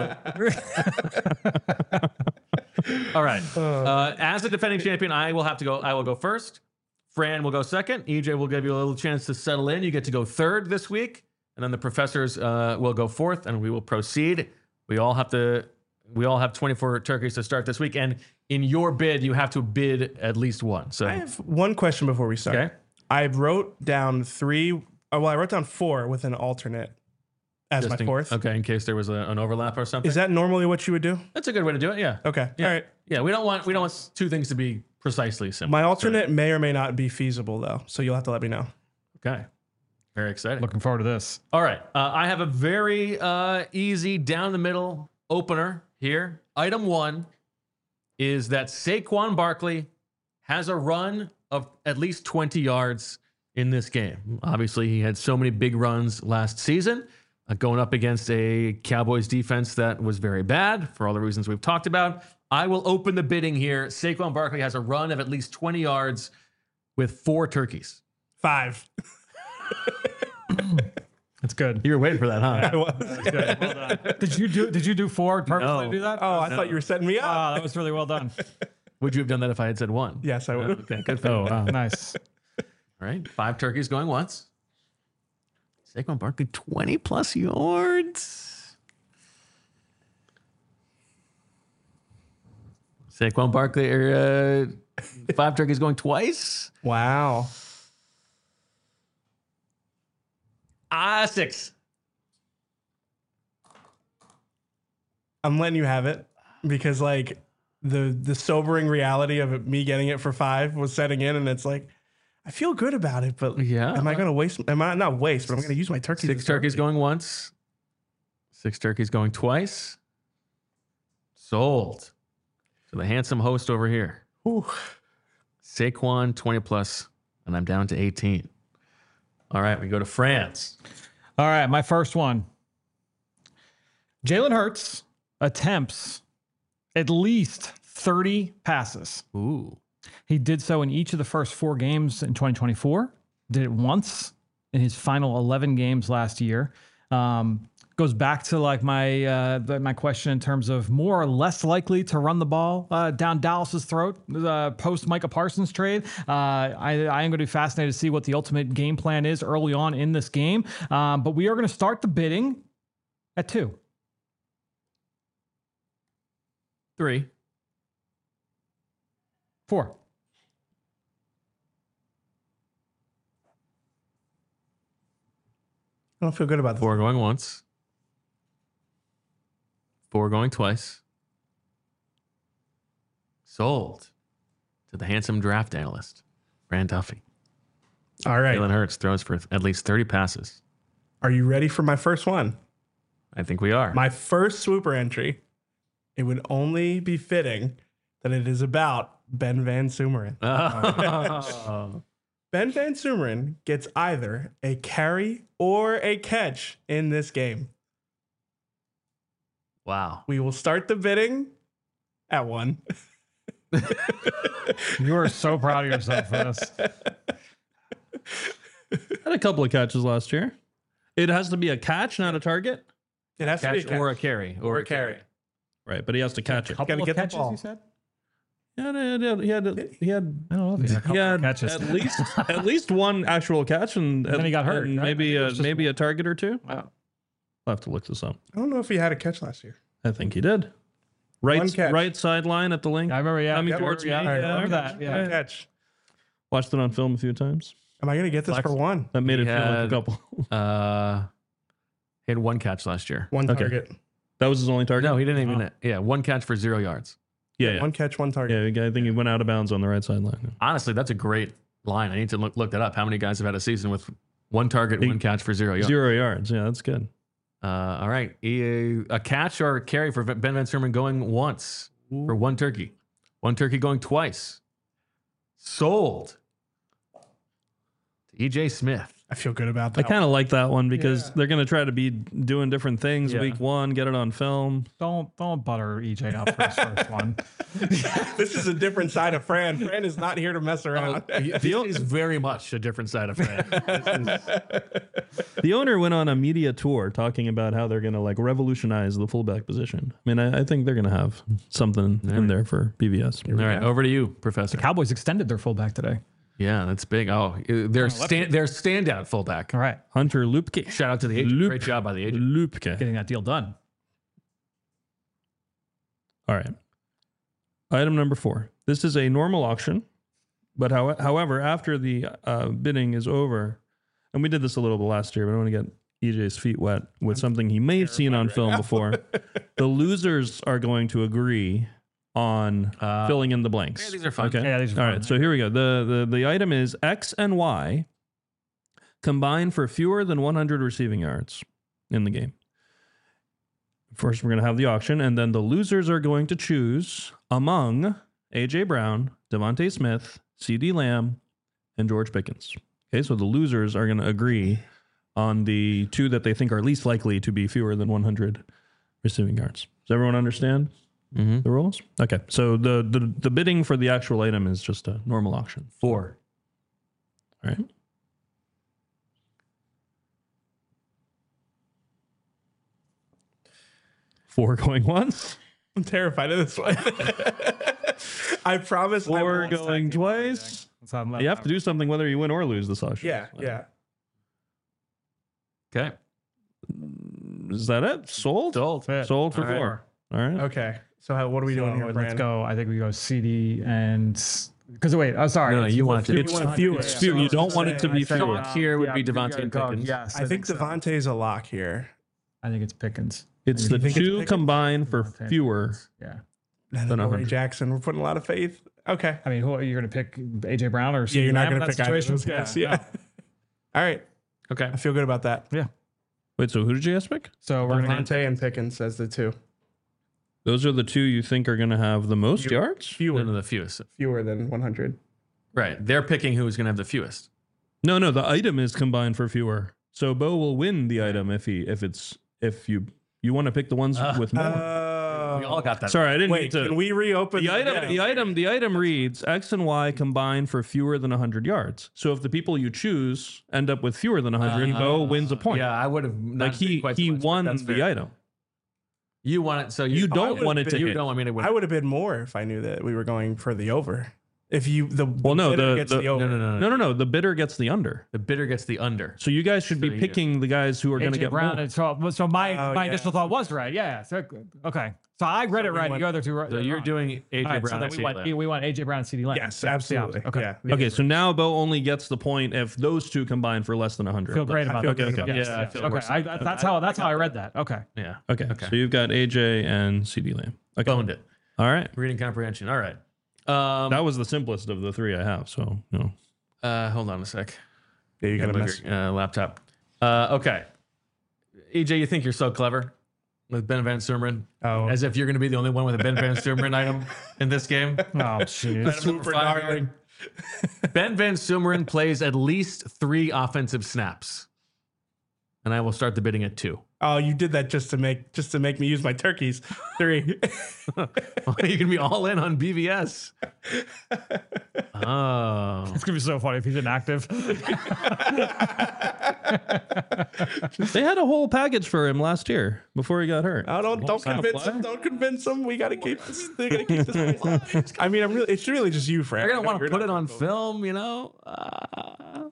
All right. Uh, as the defending champion, I will have to go. I will go first. Fran will go second. E J will give you a little chance to settle in. You get to go third this week, and then the professors uh, will go fourth, and we will proceed. We all have to. We all have twenty-four turkeys to start this week, and in your bid, you have to bid at least one. So I have one question before we start. Okay. I wrote down three. Oh, well, I wrote down four with an alternate as Just my in- fourth. Okay, in case there was a, an overlap or something. Is that normally what you would do? That's a good way to do it. Yeah. Okay. Yeah. All right. Yeah. We don't want we don't want two things to be precisely similar. My alternate may or may not be feasible, though. So you'll have to let me know. Okay. Very exciting. Looking forward to this. All right. Uh, I have a very uh, easy down the middle opener here. Item one is that Saquon Barkley has a run of at least twenty yards in this game. Obviously, he had so many big runs last season, uh, going up against a Cowboys defense that was very bad for all the reasons we've talked about. I will open the bidding here. Saquon Barkley has a run of at least twenty yards with four turkeys. Five. That's good. You were waiting for that, huh? I was. Good. Well done. Did you do? Did you do four purposely No. to do that? Oh, I thought you were setting me up. Oh, that was really well done. Would you have done that if I had said one? Yes, I would. Okay, good for Oh, you. wow, nice. All right, five turkeys going once. Saquon Barkley, twenty plus yards. Saquon Barkley, uh, five turkeys going twice. Wow. Ah, six. I'm letting you have it because, like, the the sobering reality of it, me getting it for five was setting in, and it's like, I feel good about it, but Yeah. am I going to waste? Am I not waste? But I'm going to use my turkeys. Six this turkeys early. going once. Six turkeys going twice. Sold. So the handsome host over here. Ooh. Saquon, twenty plus, and I'm down to eighteen. All right, we go to France. All right, my first one. Jalen Hurts attempts at least thirty passes. Ooh. He did so in each of the first four games in twenty twenty-four. Did it once in his final eleven games last year. Um, goes back to like my uh, the- my question in terms of more or less likely to run the ball uh, down Dallas's throat uh, post Micah Parsons trade. Uh, I, I am going to be fascinated to see what the ultimate game plan is early on in this game. Um, but we are going to start the bidding at two. Three. Four. I don't feel good about this. Four going once. Four going twice. Sold to the handsome draft analyst, Fran Duffy. All right. Jalen Hurts throws for at least thirty passes. Are you ready for my first one? I think we are. My first swooper entry. It would only be fitting that it is about Ben Van Sumeren. Oh. Ben Van Sumeren gets either a carry or a catch in this game. Wow. We will start the bidding at one. You are so proud of yourself for this. Had a couple of catches last year. It has to be a catch, not a target. It has to be a Catch catch. or a carry. or a carry. Right, but he has to catch it. Couple Gotta of get the catches, ball. you said? Yeah, he had, he had, he had, I don't know if he had a couple he of had catches. at least at least one actual catch, and, then he got hurt, and right? I maybe think it a, was just maybe a target or two. Wow. I'll have to look this up. I don't know if he had a catch last year. I think he did. Right, One catch. right sideline at the link. I remember, yeah. I mean, yeah, towards yeah, me, I yeah. remember that. One Yeah. catch. Watched it on film a few times. Am I going to get this Flex. for one? That made He it feel like a had- couple. Uh, he had one catch last year. One Okay. target. That was his only target. No, he didn't even. Wow. Yeah, one catch for zero yards. yeah, yeah, One catch, one target. yeah. I think he went out of bounds on the right sideline. Honestly, that's a great line. I need to look, look that up. How many guys have had a season with one target, He- one catch for zero yards? Zero yards. Yeah, that's good. Uh, all right. E- A catch or a carry for Ben Van Sumeren going once for one turkey. One turkey going twice. Sold to E J Smith. I feel good about I that. kind of like that one because Yeah. they're going to try to be doing different things Yeah. week one, get it on film. Don't don't butter E J up for his first one. This is a different side of Fran. Fran is not here to mess around. This is very much a different side of Fran. The owner went on a media tour talking about how they're going to like revolutionize the fullback position. I mean, I, I think they're going to have something in there for B V S. All right, over to you, Professor. Cowboys extended their fullback today. Yeah, that's big. Oh, their stand, their standout fullback. All right. Hunter Lupke. Shout out to the agent. Lup- Great job by the agent. Lupke. Getting that deal done. All right. Item number four. This is a normal auction, but how, however, after the uh, bidding is over, and we did this a little bit last year, but I want to get E J's feet wet with something he may have seen on film before. The losers are going to agree on Uh, filling in the blanks. yeah, these are fun. Okay. Yeah, these are All fun. right. So here we go. The, the the item is X and Y combine for fewer than one hundred receiving yards in the game. First, we're going to have the auction, and then the losers are going to choose among A J Brown, Devontae Smith, CeeDee Lamb, and George Pickens. Okay, so the losers are going to agree on the two that they think are least likely to be fewer than one hundred receiving yards. Does everyone understand Mm-hmm. the rules? Okay, so the, the the bidding for the actual item is just a normal auction. Four. All right. Four going once. I'm terrified of this one. I promise. I Four won't going second. twice. That's how I'm You have to do something whether you win or lose this auction. Yeah, yeah. Okay. Is that it? Sold? Sold. Yeah. Sold for All right. four. All right. Okay. So how, what are we doing here, let's Brandon? go. I think we go C D and because wait, oh sorry. No, no, you want it to. It's, want fewer. it's few. You don't want it to be I said fewer. Lock here would be Devontae and Pickens. Yes, I think Devontae's a lock here. I think it's Pickens. It's You the think it's two Pickens? combined for Devontae. fewer. Yeah. And Then then one Corey hundred. Jackson. We're putting a lot of faith. Okay. I mean, who are you going to pick? A J Brown or Yeah, CeeDee you're not Lamb in going to that pick either of situation? those guys. Yeah. All right. Okay. I feel good about that. Wait, so who did you guys pick? So we're going to Devontae and Pickens as the two. Those are the two you think are going to have the most Fewer. yards? Fewer. None of the fewest. Fewer than one hundred. Right. They're picking who's going to have the fewest. No, no, the item is combined for fewer. So Bo will win the item if he if it's if you you want to pick the ones with more. Oh. We all got that. Sorry, I didn't Wait, mean to. can we reopen the item, Yeah. the item, the item reads X and Y combine for fewer than one hundred yards. So if the people you choose end up with fewer than one hundred, Uh, Bo wins a point. Yeah, I would have not like he quite so he much, but won that's the fair. item. You want it, so you, You oh, I don't would've want it bid- to You hit. don't want me to win. I would have bid more if I knew that we were going for the over. If you the Well, no, bidder the- gets the- the over. No, no, no, No, no, no. The bidder gets the under. The bidder gets the under. So you guys should be So you- picking the guys who are going to A J get Brown. more. And so, so my Oh, my yeah. initial thought was right. Yeah. So, okay. So I read it we right. went- The other two. Right, So you're wrong. doing A J All right, Brown so then and we CeeDee want Lamb. we want A J Brown and CeeDee Lamb. Yes, Yeah, absolutely. Okay. Yeah. Okay, so now Bo only gets the point if those two combine for less than one hundred. Feel great about feel that. good okay. about Yes, Yeah, I yes. feel it okay. works. I, I, that's how that's how I read that. Okay. Yeah. Okay, Okay. so you've got A J and CeeDee Lamb. Okay. Boned it. All right. Reading comprehension. All right. Um, That was the simplest of the three I have. So, you know. uh, hold on a sec. Yeah, you Gotta gotta move mess. your uh, laptop. Uh, okay. E J, you think you're so clever with Ben Van Sumeren? Oh. As if you're going to be the only one with a Ben Van Sumeren item in this game. Oh, jeez. Super Five darling. Ben Van Sumeren plays at least three offensive snaps. And I will start the bidding at two. Oh, you did that just to make just to make me use my turkeys. Three. You can be all in on B V S. Oh. It's gonna be so funny if he's inactive. They had a whole package for him last year before he got hurt. Oh, don't don't sign a convince flyer? them. Don't convince them. We gotta keep this. They gotta keep this. place. I mean, I'm really. It's really just you, Frank. They're going to No, want to you're put not it on gonna- film, you know? Uh,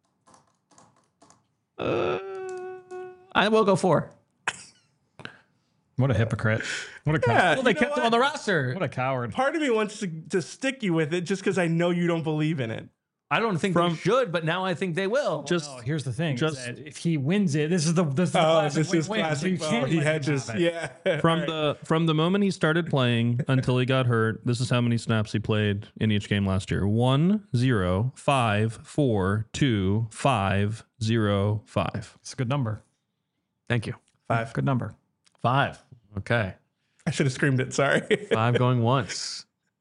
uh, I will go four. What a hypocrite. What a Yeah, coward. Well, they you know kept him what? on the roster. What a coward. Part of me wants to, to stick you with it just because I know you don't believe in it. I don't think From- they should, but now I think they will. Just Oh, here's the thing. is just- that if he wins it, this is the this is the Oh, classic this is win-win. So you classic. can't Oh, he let him hedges. have it. Yeah. from Right. the from the moment he started playing until he got hurt, this is how many snaps he played in each game last year. One, zero, five, four, two, five, zero, five. It's a good number. Thank you. Five. Good number. Five. Okay. I should have screamed it. Sorry. Five going once.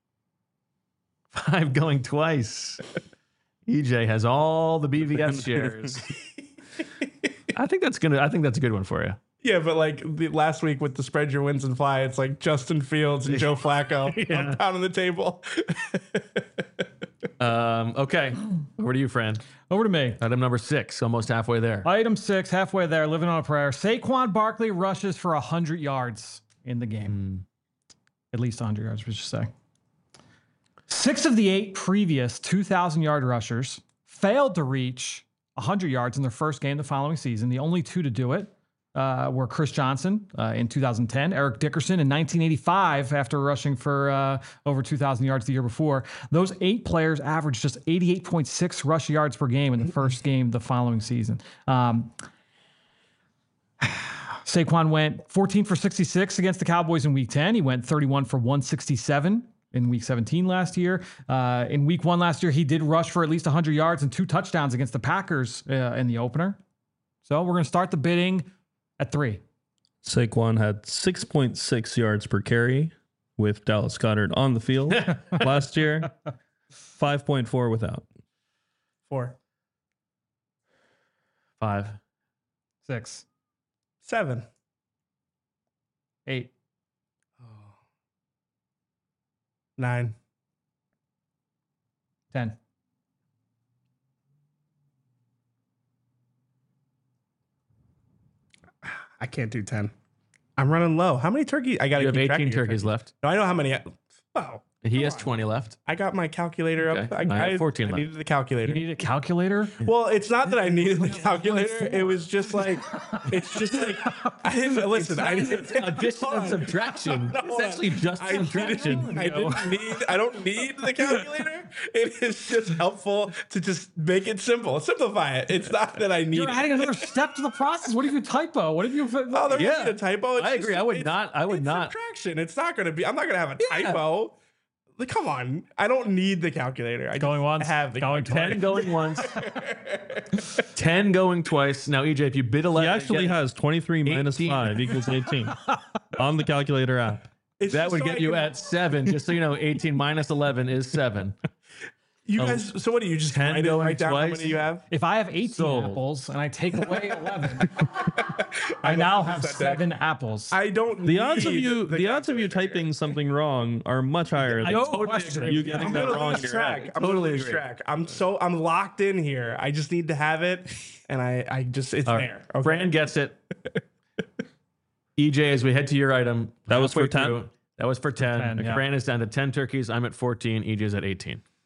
Five going twice. E J has all the B V S shares. I think that's gonna. I think that's a good one for you. Yeah, but like the last week with the spread your wins and fly, it's like Justin Fields and Joe Flacco Yeah. I'm pounding the table. Um, okay, over to you, Fran. Over to me. Item number six, almost halfway there. Item six, halfway there, living on a prayer. Saquon Barkley rushes for one hundred yards in the game. At least one hundred yards, we should say. Six of the eight previous two thousand yard rushers failed to reach one hundred yards in their first game the following season. The only two to do it uh, were Chris Johnson uh, in two thousand ten, Eric Dickerson in nineteen eighty-five after rushing for uh, over two thousand yards the year before. Those eight players averaged just eighty-eight point six rush yards per game in the first game the following season. Um, Saquon went fourteen for sixty-six against the Cowboys in week ten. He went thirty-one for one sixty-seven in week seventeen last year. Uh, in week one last year, he did rush for at least one hundred yards and two touchdowns against the Packers uh, in the opener. So we're going to start the bidding at three. Saquon had six point six yards per carry with Dallas Goedert on the field last year. five point four without. Four. Five. Six, Seven. eight, Nine. ten. I can't do ten. I'm running low. How many turkeys? I got You to have keep track eighteen of your turkeys left. No, I know how many. I, wow. He has on. twenty left. I got my calculator up. Okay. I have fourteen I left. needed the calculator. You need a calculator? Well, it's not that I needed the calculator. It was just like, it's just like, I didn't listen. I didn't. Addition Hold and on. subtraction. No, It's hold on. actually just I subtraction. didn't, I didn't need. I don't need the calculator. It is just helpful to just make it simple, simplify it. It's not that I need. You're it. adding another step to the process. What if you typo? What if you... Oh, there's Yeah. not a typo. It's I agree. just- I would it's- not- I would it's not. Subtraction. It's not going to be. I'm not going to have a typo. Like, come on. I don't need the calculator. I Going just once, have the going calculator. Ten going once. Ten going twice. Now, E J, if you bid eleven, He actually get- has twenty-three minus eighteen. five equals eighteen on the calculator app. It's that just would so get I you can- at seven. Just so you know, eighteen minus eleven is seven. You guys. So what do you just ten write, it, going write down how twice? many you have? If I have eighteen Sold. apples and I take away eleven, I now have that deck. seven apples. I don't. The odds of need you, the odds of you calculator. typing something wrong are much higher than no totally question. agree. you getting I'm that gonna wrong. lose in your track. head. I'm Totally gonna lose agree. track. I'm so I'm locked in here. I just need to have it, and I I just it's All there. right. Fran gets it. E J, as we head to your item, That was for halfway ten? through, That was for ten. ten, yeah. Fran is down to ten turkeys. I'm at fourteen. E J's at eighteen.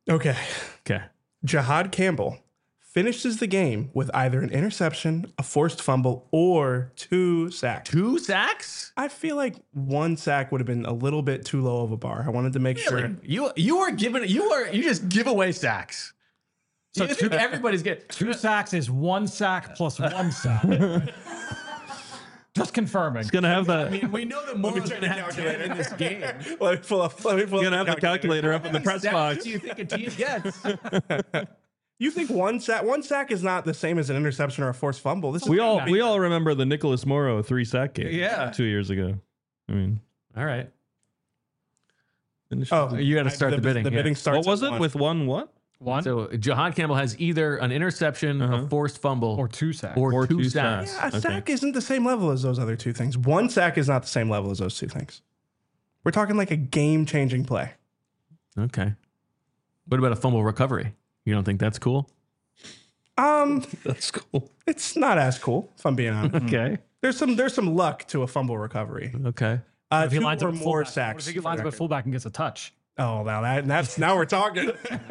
Okay. Okay. Jahad Campbell finishes the game with either an interception, a forced fumble, or two sacks. Two sacks? I feel like one sack would have been a little bit too low of a bar. I wanted to make sure. You you are giving you are you just give away sacks. So you think everybody's getting Two sacks is one sack plus one sack. Just confirming. It's gonna have I that. mean, we know that Moro's going to have ten in this game. Let me pull up. Let me pull You're gonna up have the calculator up in the press Sacks box. do you think a team gets? You think one sack? One sack is not the same as an interception or a forced fumble. This is We all we all remember the Nicholas Morrow three sack game. Yeah. two years ago. I mean, All right. finish Oh, You gotta start I- the bidding, The yeah. bidding starts. what was at it one. with one what? One So Jahad Campbell has either an interception, a forced fumble, or two sacks. or, Or two, two sacks. sacks. A sack isn't the same level as those other two things. One sack is not the same level as those two things. We're talking like a game-changing play. Okay. What about a fumble recovery? You don't think that's cool? Um, That's cool. it's not as cool, if I'm being honest. Okay. There's some there's some luck to a fumble recovery. Okay. Uh, If he two lines or up at more fullback, sacks. What if he for lines the up at record. fullback and gets a touch? Oh, now that that's now we're talking.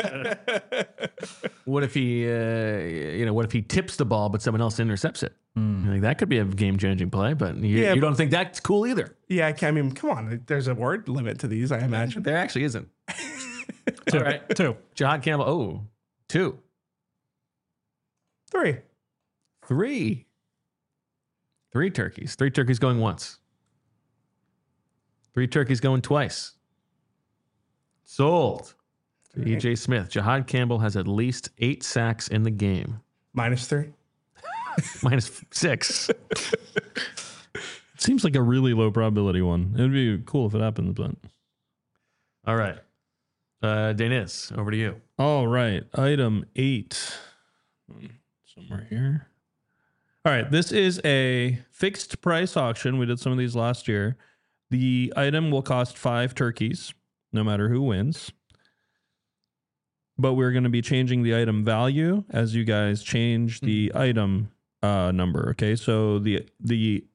What if he, uh, you know, what if he tips the ball but someone else intercepts it? Like that could be a game-changing play, but you, Yeah, you but- don't think that's cool either. Yeah, I, can, I mean, come on. There's a word limit to these, I imagine. There actually isn't. Two. All right. Two. Jahad Campbell. Oh, two, Three. three, three turkeys. Three turkeys going once. Three turkeys going twice. Sold. To E J Smith. Jahad Campbell has at least eight sacks in the game. Minus three. Minus six. Seems like a really low probability one. It'd be cool if it happens, but All right. Uh, Denis, over to you. all right. Item eight. Somewhere here. All right. This is a fixed price auction. We did some of these last year. The item will cost five turkeys, no matter who wins. But we're going to be changing the item value as you guys change the mm-hmm. item uh, number. Okay. So the, the,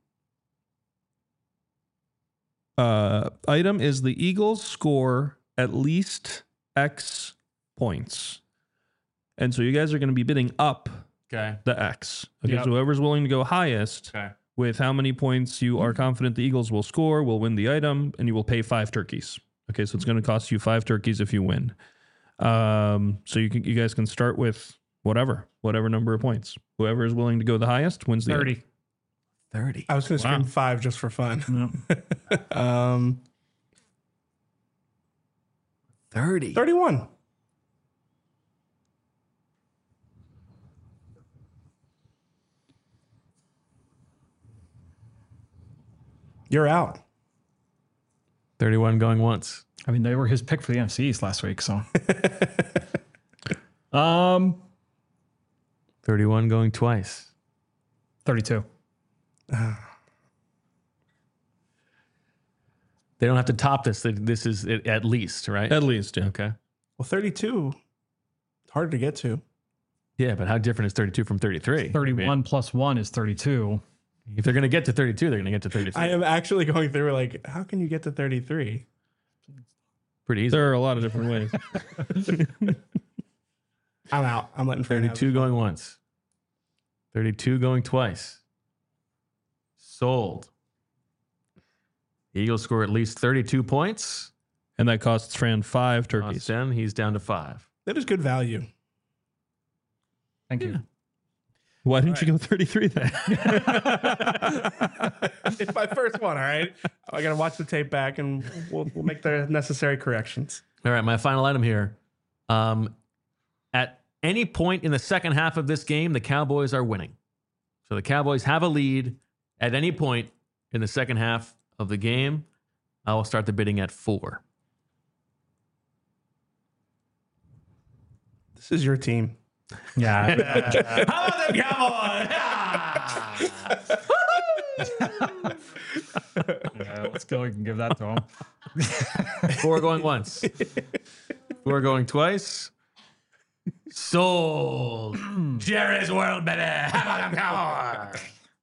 uh, item is the Eagles score at least X points. And so you guys are going to be bidding up Okay. the X. Okay. Yep. So whoever's willing to go highest Okay. with how many points you are confident the Eagles will score will win the item, and you will pay five turkeys. Okay. So it's going to cost you five turkeys if you win. Um, so you can, you guys can start with whatever, whatever number of points. Whoever is willing to go the highest wins the thirty. item. thirty. I was going to Wow. scream five just for fun. Yep. um, thirty. thirty-one. You're out. thirty-one going once. I mean, they were his pick for the N F C East last week, so. um, thirty-one going twice. thirty-two. They don't have to top this. They- This is it at least, right? At least, yeah. Okay. Well, thirty-two. It's hard to get to. Yeah, but how different is thirty-two from thirty-three? thirty-one plus one is thirty-two. If they're going to get to thirty-two, they're going to get to thirty-three. I am actually going through like, how can you get to thirty-three? Pretty easy. There are a lot of different ways. I'm out. I'm letting Fran have it. thirty-two going once. thirty-two going twice. Sold. The Eagles score at least thirty-two points. And that costs Fran five Cost turkeys. ten. He's down to five. That is good value. Thank you. Why didn't you go thirty-three then? It's my first one, all right? I got to watch the tape back and we'll, we'll make the necessary corrections. All right, my final item here. Um, at any point in the second half of this game, the Cowboys are winning. So the Cowboys have a lead at any point in the second half of the game. I will start the bidding at four. This is your team. Yeah. How about the Cowboys? Yeah, let's go. We can give that to him. Four going once. Four going twice. Sold. Jerry's World, baby. How about them Cowboys?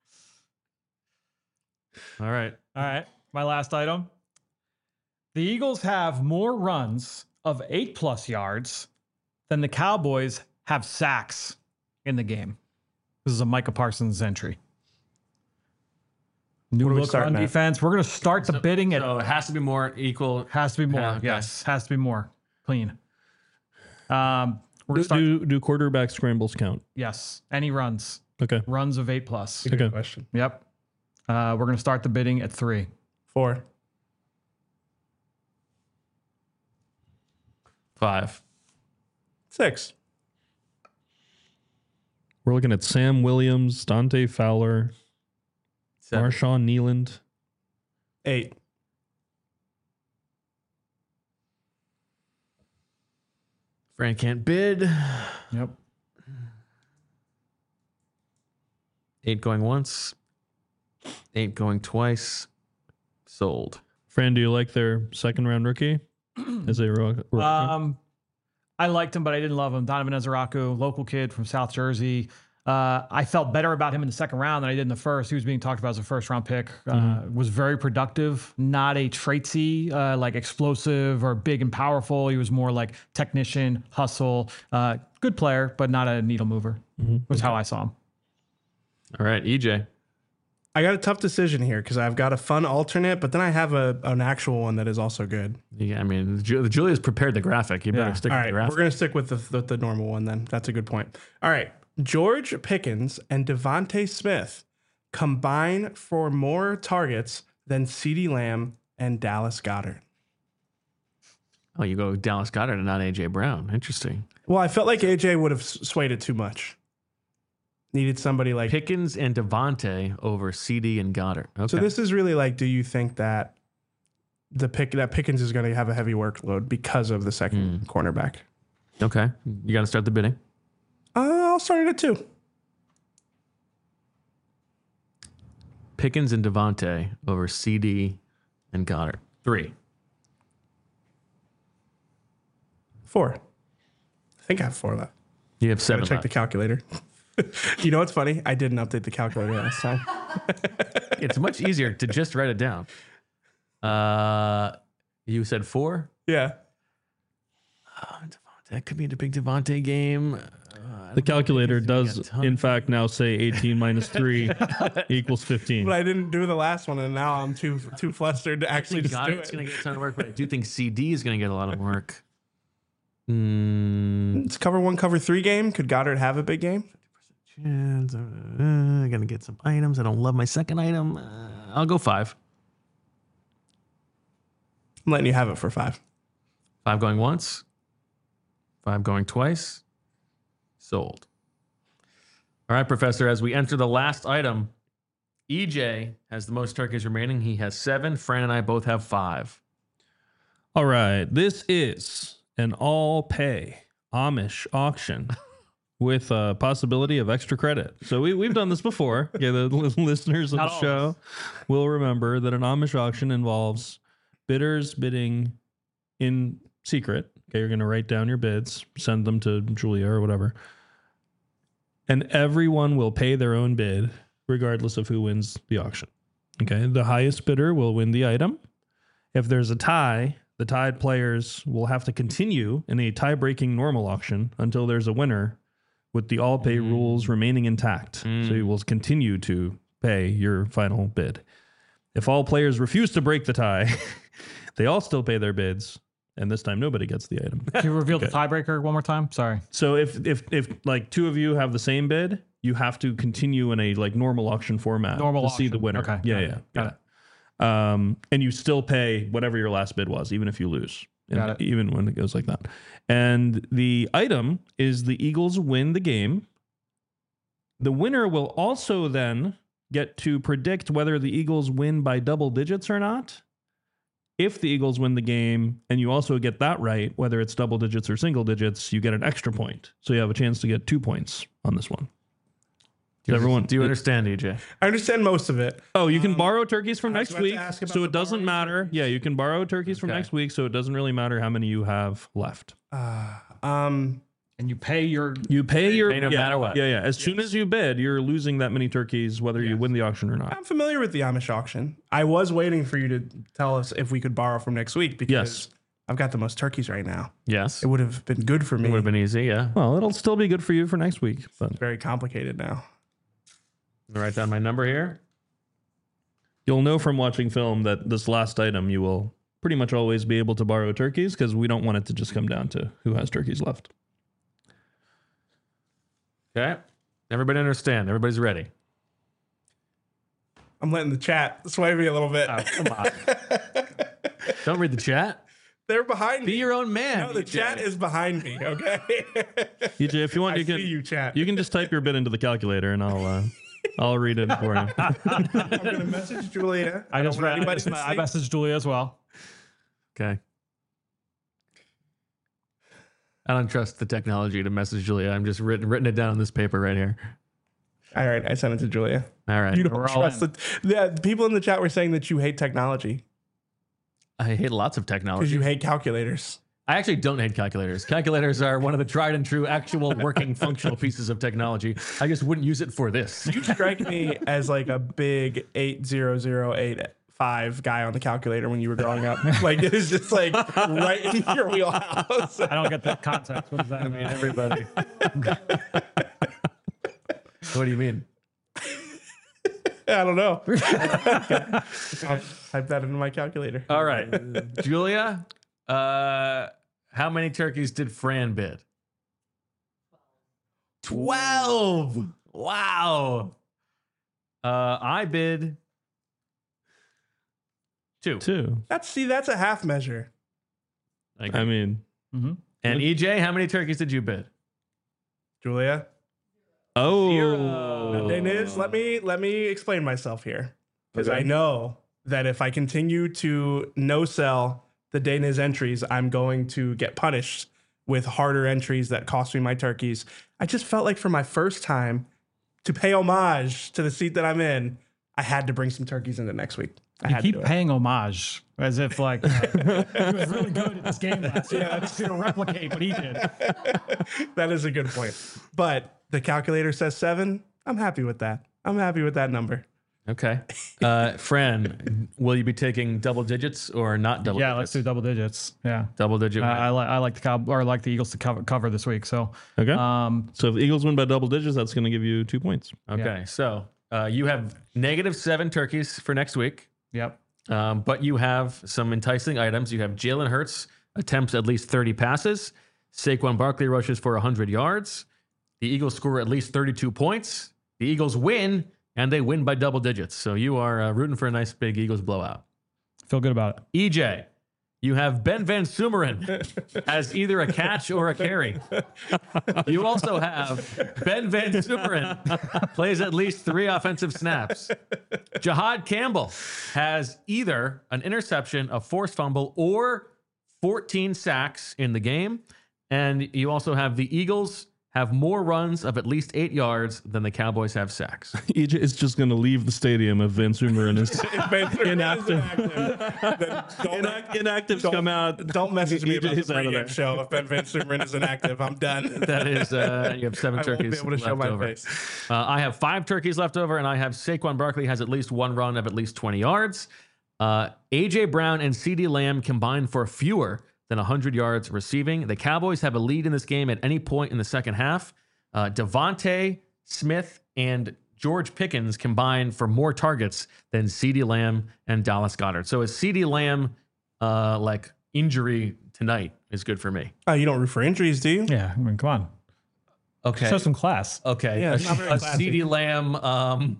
All right. All right. My last item. The Eagles have more runs of eight plus yards then the Cowboys have sacks in the game. This is a Micah Parsons entry. New What are we look starting on at? defense. We're going to start the bidding at So it has to be more equal. has to be more. Yeah, okay. Yes, has to be more clean. Um, we're Do, gonna start. do, do quarterback scrambles count? Yes, any runs, Okay. runs of eight plus. Good Okay. question. Yep. Uh, we're going to start the bidding at three. Four. Five. Six. We're looking at Sam Williams, Dante Fowler, Seven. Marshawn Nealand. Eight. Fran can't bid. Yep. Eight going once. Eight going twice. Sold. Fran, do you like their second round rookie? Is a ro- ro- Um, I liked him, but I didn't love him. Donovan Ezeraku, local kid from South Jersey. Uh, I felt better about him in the second round than I did in the first. He was being talked about as a first round pick. Uh, Mm-hmm. Was very productive, not a traitsy, uh, like explosive or big and powerful. He was more like technician, hustle, uh, good player, but not a needle mover. Mm-hmm. Was how I saw him. All right, E J. I got a tough decision here because I've got a fun alternate, but then I have a an actual one that is also good. Yeah, I mean, Ju- Julia's prepared the graphic. You better Yeah. stick All with right, the we're graphic. going to stick with the, the the normal one then. That's a good point. All right, George Pickens and Devontae Smith combine for more targets than CeeDee Lamb and Dallas Goedert. Oh, you go with Dallas Goedert and not A J Brown. Interesting. Well, I felt like A J would have s- swayed it too much. Needed somebody like. Pickens and Devontae over C D and Goddard. Okay. So this is really like, do you think that the pick that Pickens is going to have a heavy workload because of the second cornerback? Okay. You got to start the bidding. Uh, I'll start it at two. Pickens and Devontae over C D and Goddard. Three. Four. I think I have four left. You have Gotta seven check left. the calculator. You know what's funny? I didn't update the calculator last time. It's much easier to just write it down. Uh, you said four? Yeah. Oh, Devontae. That could be a big Devontae game. Uh, The calculator does, a ton in of- fact, now say eighteen minus three equals fifteen. But I didn't do the last one, and now I'm too too flustered to actually just do Goddard's it. going to get a ton of work, but I do think C D is going to get a lot of work. Mm, It's cover one, cover three game. Could Goddard have a big game? chance. Uh, I'm going to get some items. I don't love my second item. Uh, I'll go five. I'm letting you have it for five. Five going once. Five going twice. Sold. All right, Professor, as we enter the last item, E J has the most turkeys remaining. He has seven. Fran and I both have five. All right. This is an all pay Amish auction with a possibility of extra credit. So we, we've done this before. Okay, the li- listeners of Not the all show of will remember that an Amish auction involves bidders bidding in secret. Okay, you're going to write down your bids, send them to Julia or whatever. And everyone will pay their own bid regardless of who wins the auction. Okay, the highest bidder will win the item. If there's a tie, the tied players will have to continue in a tie-breaking normal auction until there's a winner with the all-pay rules remaining intact. So you will continue to pay your final bid. If all players refuse to break the tie, they all still pay their bids, and this time nobody gets the item. Can you reveal the tiebreaker one more time? Sorry. So if if if like two of you have the same bid, you have to continue in a like normal auction format Normal to see the auction. winner. Okay. Yeah, Got yeah, it. yeah. Got Um, and you still pay whatever your last bid was, even if you lose. And Got it. Even when it goes like that. And the item is the Eagles win the game. The winner will also then get to predict whether the Eagles win by double digits or not. If the Eagles win the game and you also get that right, whether it's double digits or single digits, you get an extra point. So you have a chance to get two points on this one. Does everyone Do you understand, E J? I understand most of it. Oh, you can borrow turkeys from I was next about to week, ask about so the it doesn't borrowing matter. Yeah, you can borrow turkeys from Okay. next week, so it doesn't really matter how many you have left. Uh, um, And you pay your You pay your Pay no yeah, matter what. Yeah, yeah. As soon as you bid, you're losing that many turkeys, whether you win the auction or not. I'm familiar with the Amish auction. I was waiting for you to tell us if we could borrow from next week because Yes. I've got the most turkeys right now. Yes. It would have been good for me. It would have been easy, yeah. Well, it'll still be good for you for next week. But Very complicated now. Let me write down my number here. you'll know from watching film that this last item you will pretty much always be able to borrow turkeys because we don't want it to just come down to who has turkeys left. Okay. Everybody understand. Everybody's ready. I'm letting the chat sway me a little bit. Oh, come on. Don't read the chat. They're behind Be me. your own man. No, the E J. chat is behind me. Okay. E J, if you want, I you can see you, chat. you can just type your bid into the calculator and I'll uh, I'll read it for you. I'm gonna message Julia. I just don't want read. anybody to I see. messaged Julia as well. Okay. I don't trust the technology to message Julia. I'm just written written it down on this paper right here. All right, I sent it to Julia. All right. You don't We're all trust in. it. The the people in the chat were saying that you hate technology I hate lots of because technology. you hate calculators. I actually don't hate calculators. Calculators are one of the tried and true, actual working, functional pieces of technology. I just wouldn't use it for this. You strike me as like a big eight zero zero eight five guy on the calculator when you were growing up. Like it is just like right in your wheelhouse. I don't get the context. What does that mean? Everybody. What do you mean? I don't know. I'll type that into my calculator. All right. Julia, uh, how many turkeys did Fran bid? twelve. Wow. Uh, I bid two. Two. That's see, that's a half measure. Thank I you. mean, And E J, how many turkeys did you bid? Julia. oh, And is let me let me explain myself here. Because Okay. I know that if I continue to no sell the Dana's entries, I'm going to get punished with harder entries that cost me my turkeys. I just felt like for my first time to pay homage to the seat that I'm in, I had to bring some turkeys into next week. I You had keep to do it. paying homage as if like uh, he was really good at this game last year. I'm just gonna replicate what he did. That is a good point. But the calculator says seven. I'm happy with that. I'm happy with that number. Okay. Uh, Fran, will you be taking double digits or not double Yeah, digits? let's do double digits. Yeah, double digit. uh, win. I like I like the cow or I like the Eagles to cover cover this week. So okay. um, So if the Eagles win by double digits, that's going to give you two points. okay. So uh, you have negative seven turkeys for next week. yep. Um, but you have some enticing items. You have Jalen Hurts attempts at least thirty passes. Saquon Barkley rushes for one hundred yards. The Eagles score at least thirty-two points. The Eagles win, and they win by double digits. So you are uh, rooting for a nice big Eagles blowout. Feel good about it. E J, you have Ben Van Sumeren as either a catch or a carry. You also have Ben Van Sumeren plays at least three offensive snaps. Jahad Campbell has either an interception, a forced fumble, or fourteen sacks in the game. And you also have the Eagles have more runs of at least eight yards than the Cowboys have sacks. E J is just going to leave the stadium if Van Sumeren is Inactive. Inact- inactives Don't- come out. Don't message me E J about is the out of there. pregame show if Ben Van Sumeren is inactive. I'm done. That is, uh, you have seven I won't be turkeys able to show left my over. face. Uh, I have five turkeys left over, and I have Saquon Barkley has at least one run of at least twenty yards. Uh, A J Brown and CeeDee Lamb combined for fewer than one hundred yards receiving. The Cowboys have a lead in this game at any point in the second half. Uh, Devontae Smith and George Pickens combined for more targets than CeeDee Lamb and Dallas Goedert. So a CeeDee Lamb uh, like injury tonight is good for me. Oh, you don't root for injuries, do you? Yeah, I mean, come on, Okay. show some class. Okay. Yeah, a, it's not very a classy. CeeDee Lamb um,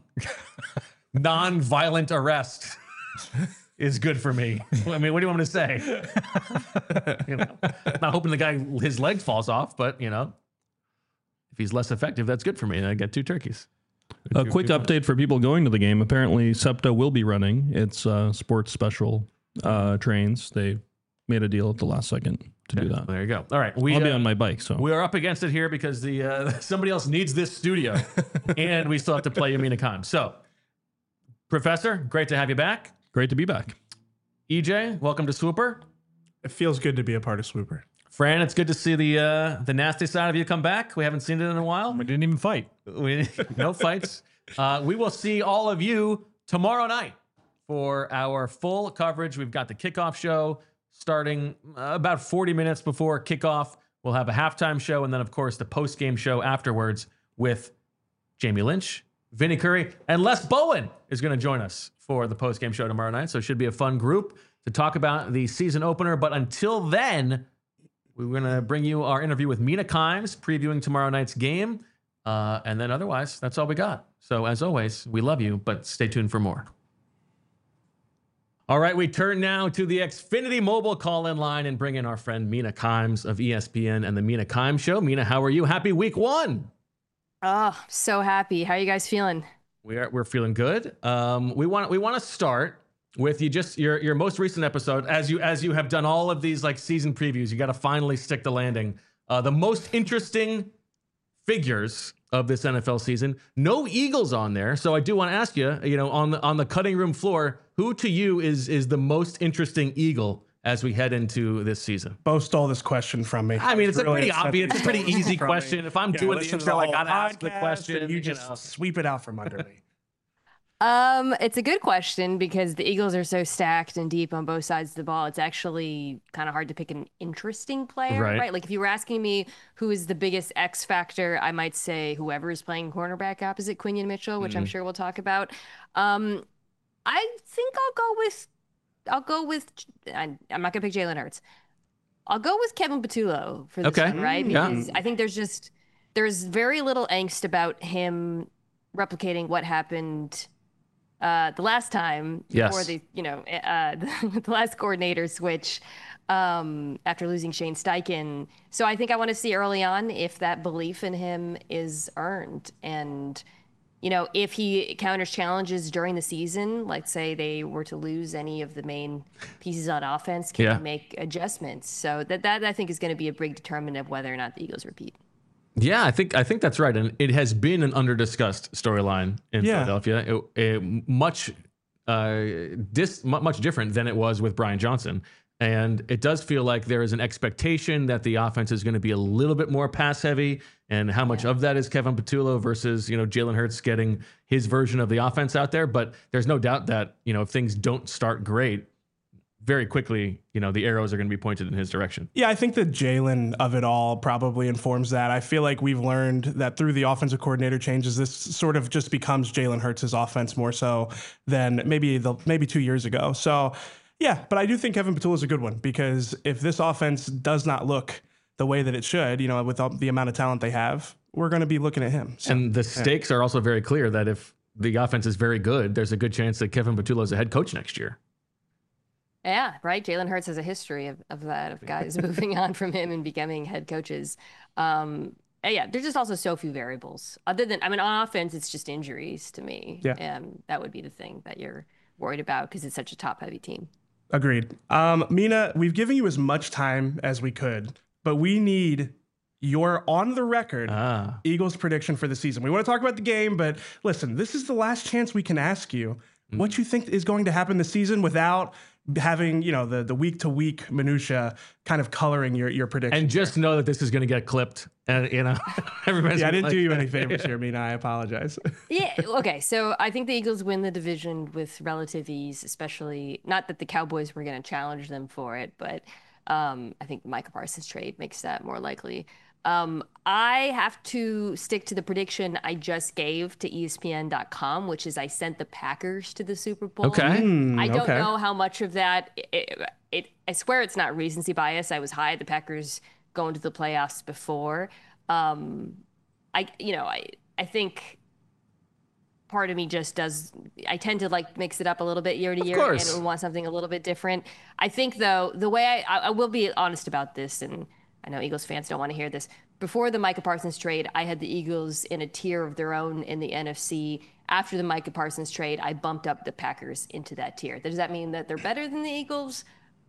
non-violent arrest is good for me. I mean, what do you want me to say? You know, not hoping the guy his leg falls off, but you know, if he's less effective, that's good for me. And I get two turkeys. A quick update for people going to the game. Apparently, SEPTA will be running its uh, sports special uh, trains. They made a deal at the last second to do that. There you go. All right, we I'll be uh, on my bike, so we are up against it here because the uh, somebody else needs this studio, and we still have to play Yamina Khan. So, Professor, great to have you back. great to be back. E J, welcome to Swooper. It feels good to be a part of Swooper. Fran, it's good to see the uh, the nasty side of you come back. We haven't seen it in a while. We didn't even fight. We, no fights. Uh, we will see all of you tomorrow night for our full coverage. We've got the kickoff show starting about forty minutes before kickoff. We'll have a halftime show, and then, of course, the post-game show afterwards with Jamie Lynch, Vinny Curry, and Les Bowen is going to join us for the post-game show tomorrow night. So it should be a fun group to talk about the season opener. But until then, we're going to bring you our interview with Mina Kimes, previewing tomorrow night's game. Uh, and then otherwise, that's all we got. So as always, we love you, but stay tuned for more. All right, we turn now to the Xfinity mobile call-in line and bring in our friend Mina Kimes of E S P N and the Mina Kimes Show. Mina, how are you? Happy week one. Oh, so happy. How are you guys feeling? We're we're feeling good. Um, we want we want to start with you just your your most recent episode, as you as you have done all of these like season previews. You got to finally stick the landing. Uh, the most interesting figures of this N F L season. No Eagles on there, so I do want to ask you, you know, on the on the cutting room floor, who to you is is the most interesting Eagle as we head into this season? Bo stole this question from me. I mean, it's, it's a really pretty upset obvious, it's a pretty easy from question. me. If I'm Yeah, doing the listen to intro, I whole gotta ask the podcast, question. and You you just know. sweep it out from under me. Um, it's a good question because the Eagles are so stacked and deep on both sides of the ball. It's actually kind of hard to pick an interesting player, Right. right? Like if you were asking me who is the biggest X factor, I might say whoever is playing cornerback opposite Quinion Mitchell, which I'm sure we'll talk about. Um, I think I'll go with, I'll go with, I'm I'm not gonna pick Jalen Hurts. I'll go with Kevin Patullo for this Okay. one, right? Yeah. Because I think there's just, there's very little angst about him replicating what happened uh, the last time Yes. before the, you know, uh, the, the last coordinator switch um, after losing Shane Steichen. So I think I want to see early on if that belief in him is earned. And, you know, if he counters challenges during the season, like say they were to lose any of the main pieces on offense, can Yeah. he make adjustments? So that, that I think is going to be a big determinant of whether or not the Eagles repeat. Yeah, I think I think that's right, and it has been an under-discussed storyline in Yeah. Philadelphia. It, it, much, uh, dis, mu- much different than it was with Brian Johnson, and it does feel like there is an expectation that the offense is going to be a little bit more pass-heavy, and how much of that is Kevin Patullo versus you know Jalen Hurts getting his version of the offense out there. But there's no doubt that you know if things don't start great, very quickly, you know, the arrows are going to be pointed in his direction. Yeah, I think the Jalen of it all probably informs that. I feel like we've learned that through the offensive coordinator changes, this sort of just becomes Jalen Hurts' offense more so than maybe the maybe two years ago. So, yeah, but I do think Kevin Patullo is a good one because if this offense does not look the way that it should, you know, with all the amount of talent they have, we're going to be looking at him. So, And the stakes are also very clear that if the offense is very good, there's a good chance that Kevin Patullo is a head coach next year. Yeah, right. Jalen Hurts has a history of, of that, of guys moving on from him and becoming head coaches. Um, and yeah, there's just also so few variables. Other than, I mean, on offense, it's just injuries to me. Yeah. And that would be the thing that you're worried about because it's such a top-heavy team. Agreed. Um, Mina, we've given you as much time as we could, but we need your on the record Ah. Eagles prediction for the season. We want to talk about the game, but listen, this is the last chance we can ask you what you think is going to happen this season without having, you know, the the week to week minutia kind of coloring your your prediction. And just know that this is going to get clipped. And, you know, everybody's yeah, I gonna didn't like- do you any favors here, Mina. I apologize. Yeah. Okay. So I think the Eagles win the division with relative ease, especially not that the Cowboys were going to challenge them for it, but um, I think the Micah Parsons trade makes that more likely. Um, I have to stick to the prediction I just gave to E S P N dot com, which is I sent the Packers to the Super Bowl. Okay. Hmm, I don't okay. know how much of that. It, it, I swear it's not recency bias. I was high at the Packers going to the playoffs before. Um, I, you know, I, I think part of me just does. I tend to like mix it up a little bit year to year course. and want something a little bit different. I think though the way I, I will be honest about this, and I know Eagles fans don't want to hear this. Before the Micah Parsons trade, I had the Eagles in a tier of their own in the N F C. After the Micah Parsons trade, I bumped up the Packers into that tier. Does that mean that they're better than the Eagles?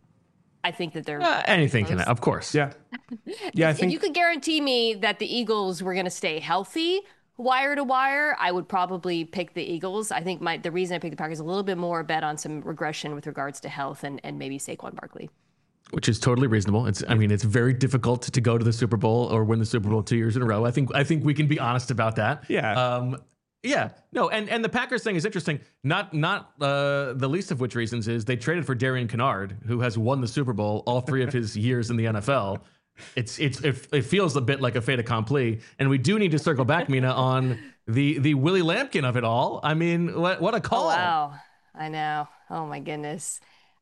I think that they're Uh, anything can, close. of course. yeah. Yeah, I If think you could guarantee me that the Eagles were going to stay healthy wire to wire, I would probably pick the Eagles. I think my the reason I picked the Packers is a little bit more bet on some regression with regards to health and, and maybe Saquon Barkley. Which is totally reasonable. It's, I mean, it's very difficult to go to the Super Bowl or win the Super Bowl two years in a row. I think, I think we can be honest about that. Yeah. Um, Yeah, no, and, and the Packers thing is interesting. Not not uh, the least of which reasons is they traded for Darian Kennard, who has won the Super Bowl all three of his years in the N F L. It's it's it, it feels a bit like a fait accompli, and we do need to circle back, Mina, on the the Willie Lampkin of it all. I mean, what what a call! Oh, wow, I know. Oh my goodness.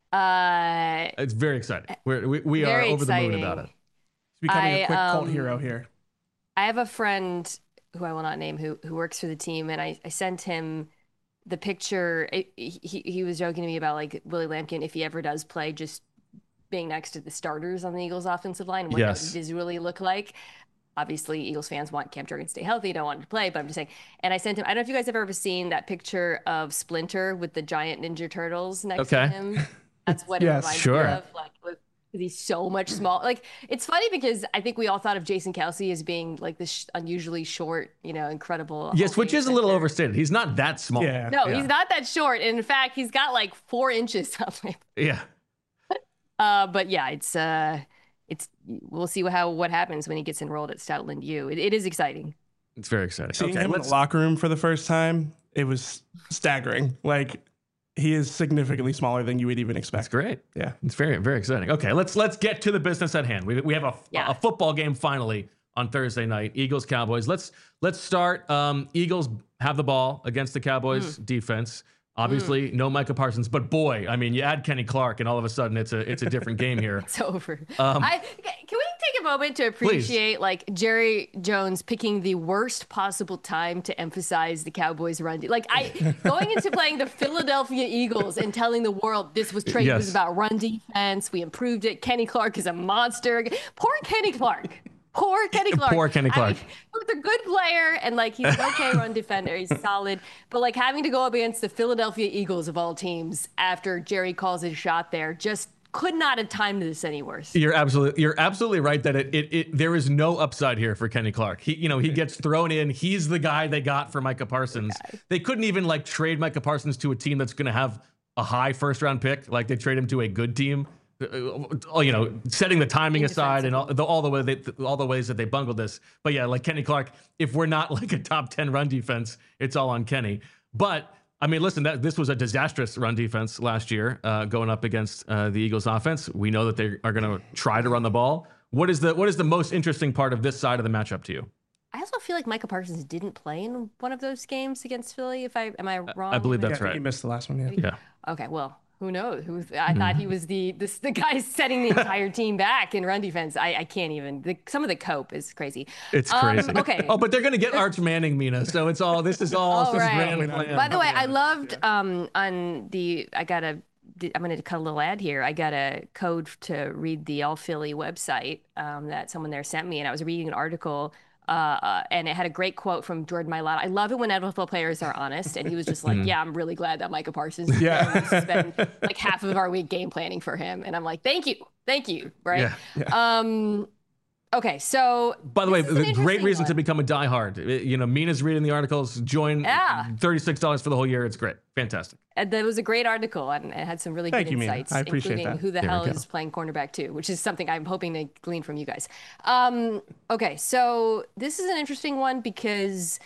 Uh, it's very exciting. We're, we we are over exciting. the moon about it. He's becoming I, a quick cult um, hero here. I have a friend who I will not name who who works for the team, and I, I sent him the picture. It, he he was joking to me about like Willie Lampkin, if he ever does play, just being next to the starters on the Eagles offensive line, what yes. that would visually look like. Obviously, Eagles fans want Cam Jurgens to stay healthy, don't want him to play, but I'm just saying. And I sent him, I don't know if you guys have ever seen that picture of Splinter with the giant Ninja Turtles next okay. to him. That's what yes, it reminds sure. me of. Like, with, he's so much small. Like, it's funny because I think we all thought of Jason Kelce as being like this sh- unusually short, you know, incredible. Yes, which is a little overstated. He's not that small. Yeah. No, yeah. he's not that short. In fact, he's got like four inches on him. Yeah. Uh, but yeah, it's uh, it's we'll see how what happens when he gets enrolled at Stoutland U. It, it is exciting. It's very exciting. Seeing okay, him in let's. the locker room for the first time, it was staggering. Like, he is significantly smaller than you would even expect. That's great. Yeah, it's very very exciting. Okay, let's let's get to the business at hand. We we have a Yeah. a football game finally on Thursday night. Eagles Cowboys. Let's let's start. Um, Eagles have the ball against the Cowboys Mm. defense. Obviously, no Micah Parsons, but boy, I mean, you add Kenny Clark, and all of a sudden, it's a it's a different game here. It's over. Um, I can we take a moment to appreciate like Jerry Jones picking the worst possible time to emphasize the Cowboys run. de- Like I going into playing the Philadelphia Eagles and telling the world this was trade Yes. was about run defense. We improved it. Kenny Clark is a monster. Poor Kenny Clark. Poor Kenny Clark. Poor Kenny Clark. I mean, he's a good player and like he's an okay run defender. He's solid. But like having to go up against the Philadelphia Eagles of all teams after Jerry calls his shot there just could not have timed this any worse. You're absolutely you're absolutely right that it, it it there is no upside here for Kenny Clark. He you know he gets thrown in. He's the guy they got for Micah Parsons. Okay. They couldn't even like trade Micah Parsons to a team that's going to have a high first round pick. Like they trade him to a good team. Uh, you know, setting the timing aside and all the, all the way they, all the ways that they bungled this. But yeah, like Kenny Clark, if we're not like a top ten run defense, it's all on Kenny. But I mean, listen, that this was a disastrous run defense last year, uh, going up against uh, the Eagles offense. We know that they are going to try to run the ball. What is the what is the most interesting part of this side of the matchup to you? I also feel like Micah Parsons didn't play in one of those games against Philly. If I am I wrong? I believe yeah, that's I think right. he missed the last one. Yeah. Yeah. Okay, well, who knows? Who I thought he was the this, the guy setting the entire team back in run defense. I, I can't even. The, some of the cope is crazy. It's Um, crazy. okay. Oh, but they're going to get Arch Manning, Mina. So it's all this is all Oh, this right. grand plan. By the way, I loved um on the I got a I'm going to cut a little ad here. I got a code to read the All Philly website um, that someone there sent me, and I was reading an article. Uh, uh, and it had a great quote from Jordan Mailata. I love it when N F L players are honest. And he was just like, yeah, I'm really glad that Micah Parsons is Yeah. there. We spend like half of our week game planning for him. And I'm like, thank you. Thank you. Right. Yeah. Um, okay. So By the way, this is an the great interesting reason to one. become a diehard. Uh, You know, Mina's reading the articles. Join Yeah. thirty-six dollars for the whole year. It's great. Fantastic. And that was a great article and it had some really Thank good you, Mina. insights, I appreciate including that. who the There we hell go. is playing cornerback too, which is something I'm hoping to glean from you guys. Um, okay, so this is an interesting one because,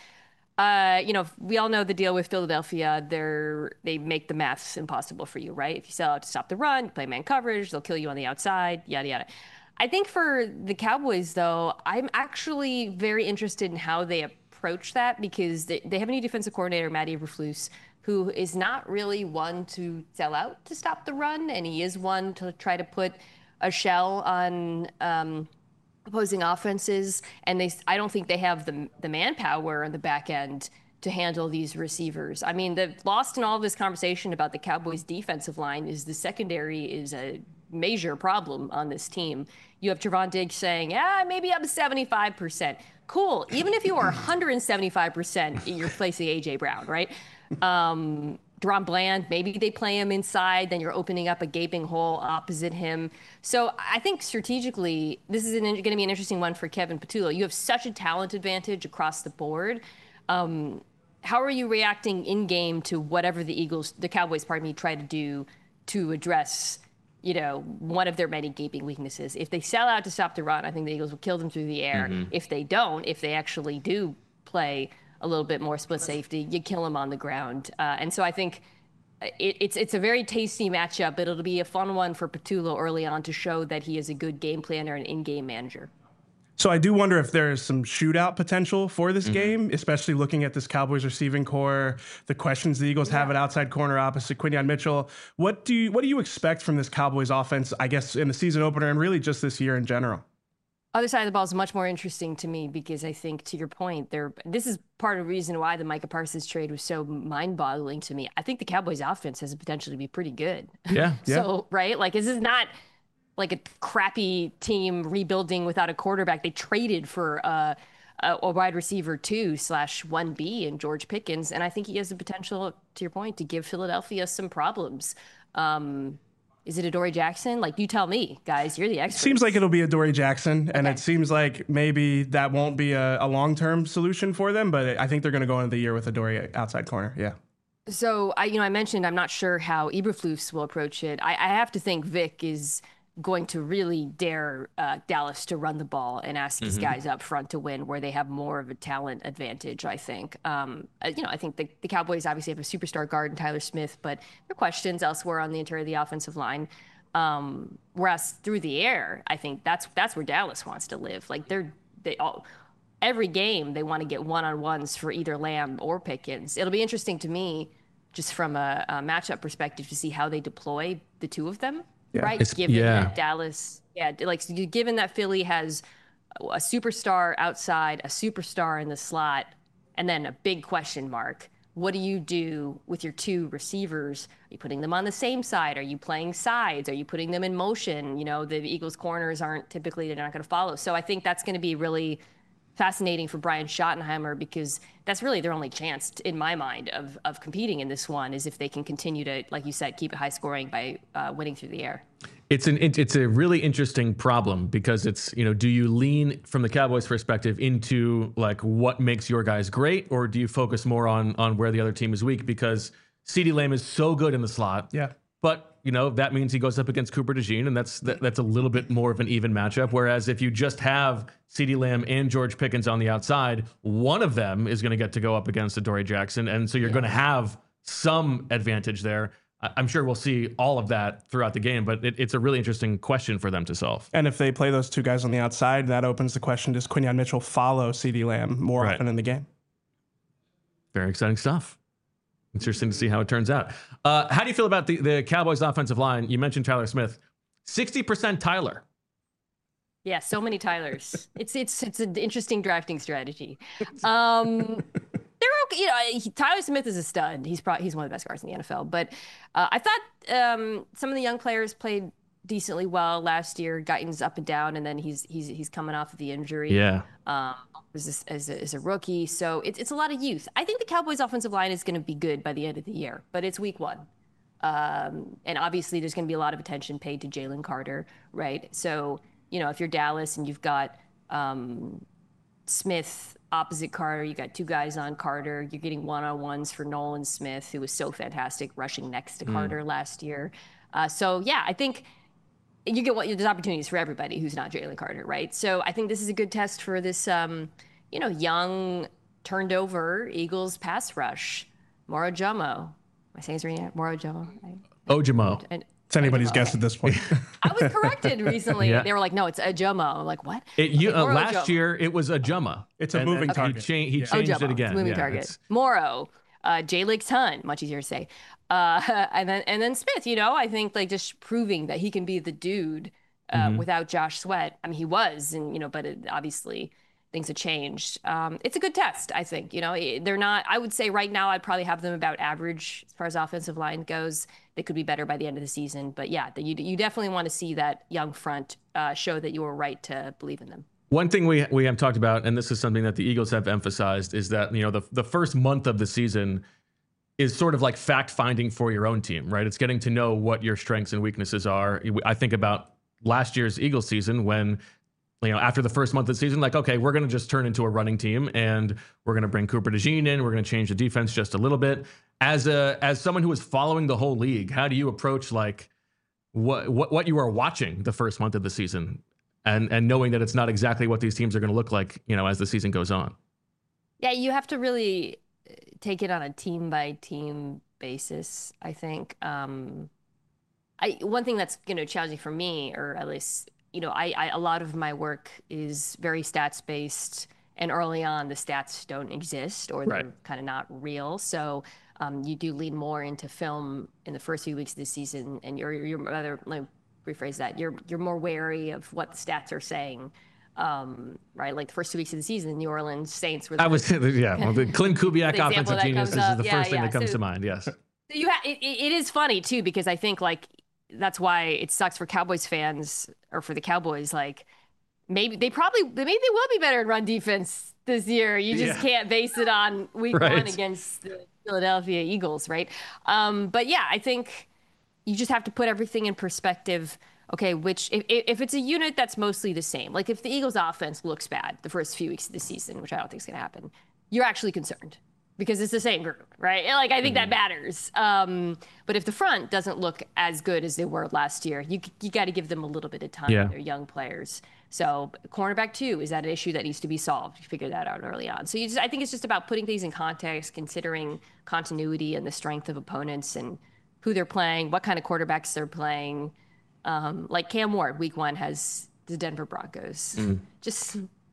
uh, you know, we all know the deal with Philadelphia. They're they make the maths impossible for you, right? If you sell out to stop the run, you play man coverage, they'll kill you on the outside, yada yada. I think for the Cowboys, though, I'm actually very interested in how they approach that because they, they have a new defensive coordinator, Matt Eberflus, who is not really one to sell out to stop the run, and he is one to try to put a shell on um, opposing offenses. And they, I don't think they have the the manpower on the back end to handle these receivers. I mean, the lost in all of this conversation about the Cowboys' defensive line is the secondary is a major problem on this team. You have Trevon Diggs saying, yeah, maybe I'm seventy-five percent. Cool. Even if you are one hundred seventy-five percent, you're replacing A J Brown, right? Um, Deron Bland, maybe they play him inside, then you're opening up a gaping hole opposite him. So I think strategically, this is going to be an interesting one for Kevin Patullo. You have such a talent advantage across the board. Um, how are you reacting in game to whatever the Eagles, the Cowboys, pardon me, try to do to address, you know, one of their many gaping weaknesses? If they sell out to stop the run, I think the Eagles will kill them through the air. Mm-hmm. If they don't, if they actually do play a little bit more split safety. You kill him on the ground. Uh, and so I think it, it's it's a very tasty matchup, but it'll be a fun one for Patullo early on to show that he is a good game planner and in-game manager. So I do wonder if there's some shootout potential for this mm-hmm. game, especially looking at this Cowboys receiving core, the questions the Eagles yeah. have at outside corner opposite Quinyon Mitchell. What do you what do you expect from this Cowboys offense, I guess, in the season opener and really just this year in general? Other side of the ball is much more interesting to me because I think, to your point, there. This is part of the reason why the Micah Parsons trade was so mind-boggling to me. I think the Cowboys offense has the potential to be pretty good. Yeah. so, yeah. right? Like, this is not like a crappy team rebuilding without a quarterback. They traded for uh, a, a wide receiver two slash one B in George Pickens. And I think he has the potential, to your point, to give Philadelphia some problems. Um, is it Adoree Jackson? Like, you tell me, guys, you're the expert. Seems like it'll be Adoree Jackson. And okay. it seems like maybe that won't be a, a long-term solution for them. But I think they're going to go into the year with Adoree outside corner. Yeah. So, I, you know, I mentioned I'm not sure how Eberflus will approach it. I, I have to think Vic is going to really dare uh, Dallas to run the ball and ask his mm-hmm. guys up front to win, where they have more of a talent advantage, I think. Um, you know, I think the, the Cowboys obviously have a superstar guard in Tyler Smith, but there are questions elsewhere on the interior of the offensive line. Um, whereas through the air, I think that's that's where Dallas wants to live. Like they're they all every game they want to get one-on-ones for either Lamb or Pickens. It'll be interesting to me, just from a, a matchup perspective, to see how they deploy the two of them. Yeah. Right. It's, given yeah. that Dallas, yeah, like given that Philly has a superstar outside, a superstar in the slot, and then a big question mark. What do you do with your two receivers? Are you putting them on the same side? Are you playing sides? Are you putting them in motion? You know, the Eagles corners aren't typically, they're not going to follow. So I think that's going to be really fascinating for Brian Schottenheimer, because that's really their only chance, in my mind, of of competing in this one, is if they can continue to, like you said, keep it high scoring by uh, winning through the air. It's an it's a really interesting problem, because it's, you know, do you lean from the Cowboys perspective into like what makes your guys great, or do you focus more on on where the other team is weak? Because CeeDee Lamb is so good in the slot. Yeah. But, you know, that means he goes up against Cooper DeJean, and that's that, that's a little bit more of an even matchup. Whereas if you just have CeeDee Lamb and George Pickens on the outside, one of them is going to get to go up against Adoree Jackson. And so you're yeah. going to have some advantage there. I'm sure we'll see all of that throughout the game, but it, it's a really interesting question for them to solve. And if they play those two guys on the outside, that opens the question, does Quinyon Mitchell follow CeeDee Lamb more right. often in the game? Very exciting stuff. Interesting to see how it turns out. Uh, how do you feel about the, the Cowboys offensive line? You mentioned Tyler Smith. sixty percent Tyler. Yeah, so many Tylers. it's it's it's an interesting drafting strategy. Um, they're okay. You know, he, Tyler Smith is a stud. He's probably he's one of the best guards in the N F L. But uh, I thought um, some of the young players played decently well last year. Guyton's up and down, and then he's he's he's coming off of the injury. Yeah. Um, as a, as a, as a rookie, so it's it's a lot of youth. I think the Cowboys' offensive line is going to be good by the end of the year, but it's week one, um, and obviously there's going to be a lot of attention paid to Jalen Carter, right? So you know, if you're Dallas and you've got um, Smith opposite Carter, you got two guys on Carter. You're getting one-on-ones for Nolan Smith, who was so fantastic rushing next to mm. Carter last year. Uh, so yeah, I think. You get what there's opportunities for everybody who's not Jalen Carter, right? So I think this is a good test for this, um, you know, young, turned over Eagles pass rush. Moro Jomo. Am I saying his name? Moro Jomo. Ojomo. And, it's anybody's guess at this point. I was corrected recently. Yeah. They were like, no, it's a Jomo. I'm like, what? It, you, uh, last Jomo. year, it was a Jumma. It's a and, moving and target. He, cha- he yeah. changed Ojomo. it again. It's a moving yeah, target. It's... Moro. Uh, J-Lig Ton, much easier to say. Uh, and then and then Smith, you know, I think like just proving that he can be the dude uh, mm-hmm. without Josh Sweat. I mean, he was, and you know, but it, obviously things have changed. Um, it's a good test, I think. You know, they're not. I would say right now I'd probably have them about average as far as offensive line goes. They could be better by the end of the season, but yeah, you you definitely want to see that young front uh, show that you were right to believe in them. One thing we we have talked about, and this is something that the Eagles have emphasized, is that, you know, the the first month of the season is sort of like fact finding for your own team, right? It's getting to know what your strengths and weaknesses are. I think about last year's Eagles season when, you know, after the first month of the season, like, okay, we're going to just turn into a running team and we're going to bring Cooper DeJean in. We're going to change the defense just a little bit. As a as someone who is following the whole league, how do you approach like what what what you are watching the first month of the season? And and knowing that it's not exactly what these teams are going to look like, you know, as the season goes on. Yeah, you have to really take it on a team by team basis, I think. Um, I one thing that's, you know, challenging for me, or at least, you know, I, I a lot of my work is very stats based, and early on the stats don't exist or they're Right. kind of not real. So um, you do lean more into film in the first few weeks of the season, and you're you're rather, let me rephrase that. You're you're more wary of what the stats are saying. Um, right, like the first two weeks of the season, the New Orleans Saints were. The, I was, yeah, well, the Clint Kubiak the offensive that genius. comes This is up. the Yeah, first thing yeah. that comes So- to mind. Yes. So you ha- it, it is funny too, because I think like that's why it sucks for Cowboys fans, or for the Cowboys. Like maybe they probably maybe they will be better in run defense this year. You just Yeah. can't base it on week Right. one against the Philadelphia Eagles, right? Um, but yeah, I think you just have to put everything in perspective. Okay, which if, if it's a unit that's mostly the same, like if the Eagles offense looks bad the first few weeks of the season, which I don't think is going to happen, you're actually concerned because it's the same group, right? And, like I think Mm-hmm. that matters. Um, but if the front doesn't look as good as they were last year, you you got to give them a little bit of time. Yeah. They're young players. So cornerback two, is that an issue that needs to be solved? You figure that out early on. So you just, I think it's just about putting things in context, considering continuity and the strength of opponents and who they're playing, what kind of quarterbacks they're playing. Um, like Cam Ward, week one has the Denver Broncos. Mm. Just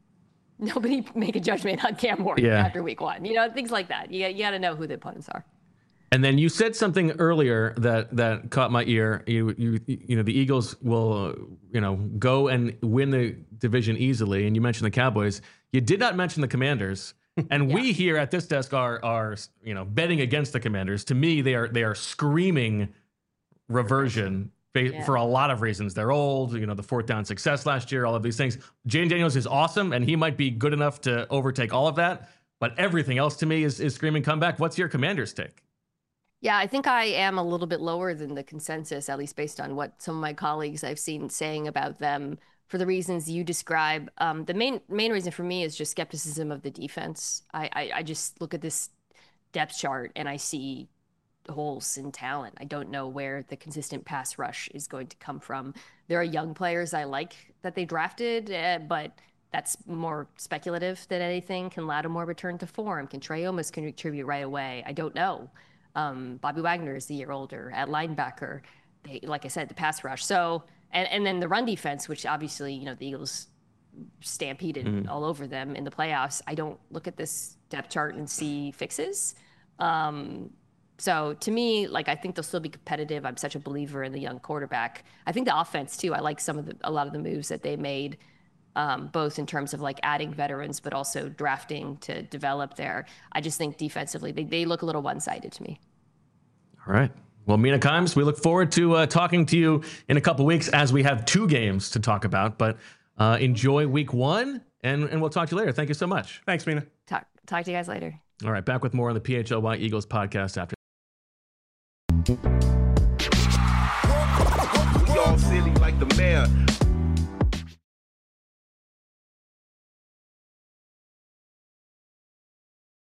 nobody make a judgment on Cam Ward Yeah. after week one. You know, things like that. You, you got to know who the opponents are. And then you said something earlier that that caught my ear. You you you know the Eagles will you know go and win the division easily, and you mentioned the Cowboys. You did not mention the Commanders. And we here at this desk are are you know betting against the Commanders. To me, they are they are screaming reversion ba- Yeah. for a lot of reasons. They're old, you know, the fourth down success last year, all of these things. Jane Daniels is awesome, and he might be good enough to overtake all of that. But everything else to me is is screaming comeback. What's your Commanders take? Yeah, I think I am a little bit lower than the consensus, at least based on what some of my colleagues I've seen saying about them for the reasons you describe. Um, the main main reason for me is just skepticism of the defense. I, I, I just look at this depth chart and I see holes in talent. I don't know where the consistent pass rush is going to come from. There are young players I like that they drafted, uh, but that's more speculative than anything. Can Lattimore return to form? Can Trey Omas contribute right away? I don't know. Um, Bobby Wagner is the year older at linebacker. They, like I said, the pass rush. So, and, and then the run defense, which obviously, you know, the Eagles stampeded mm. all over them in the playoffs. I don't look at this depth chart and see fixes. Um, so to me, like, I think they'll still be competitive. I'm such a believer in the young quarterback. I think the offense too. I like some of the, a lot of the moves that they made. Um, both in terms of like adding veterans, but also drafting to develop there. I just think defensively, they, they look a little one-sided to me. All right. Well, Mina Kimes, we look forward to uh, talking to you in a couple weeks as we have two games to talk about. But uh, enjoy week one, and, and we'll talk to you later. Thank you so much. Thanks, Mina. Talk, talk to you guys later. All right. Back with more on the P H L Y Eagles podcast after. We all silly like the mayor.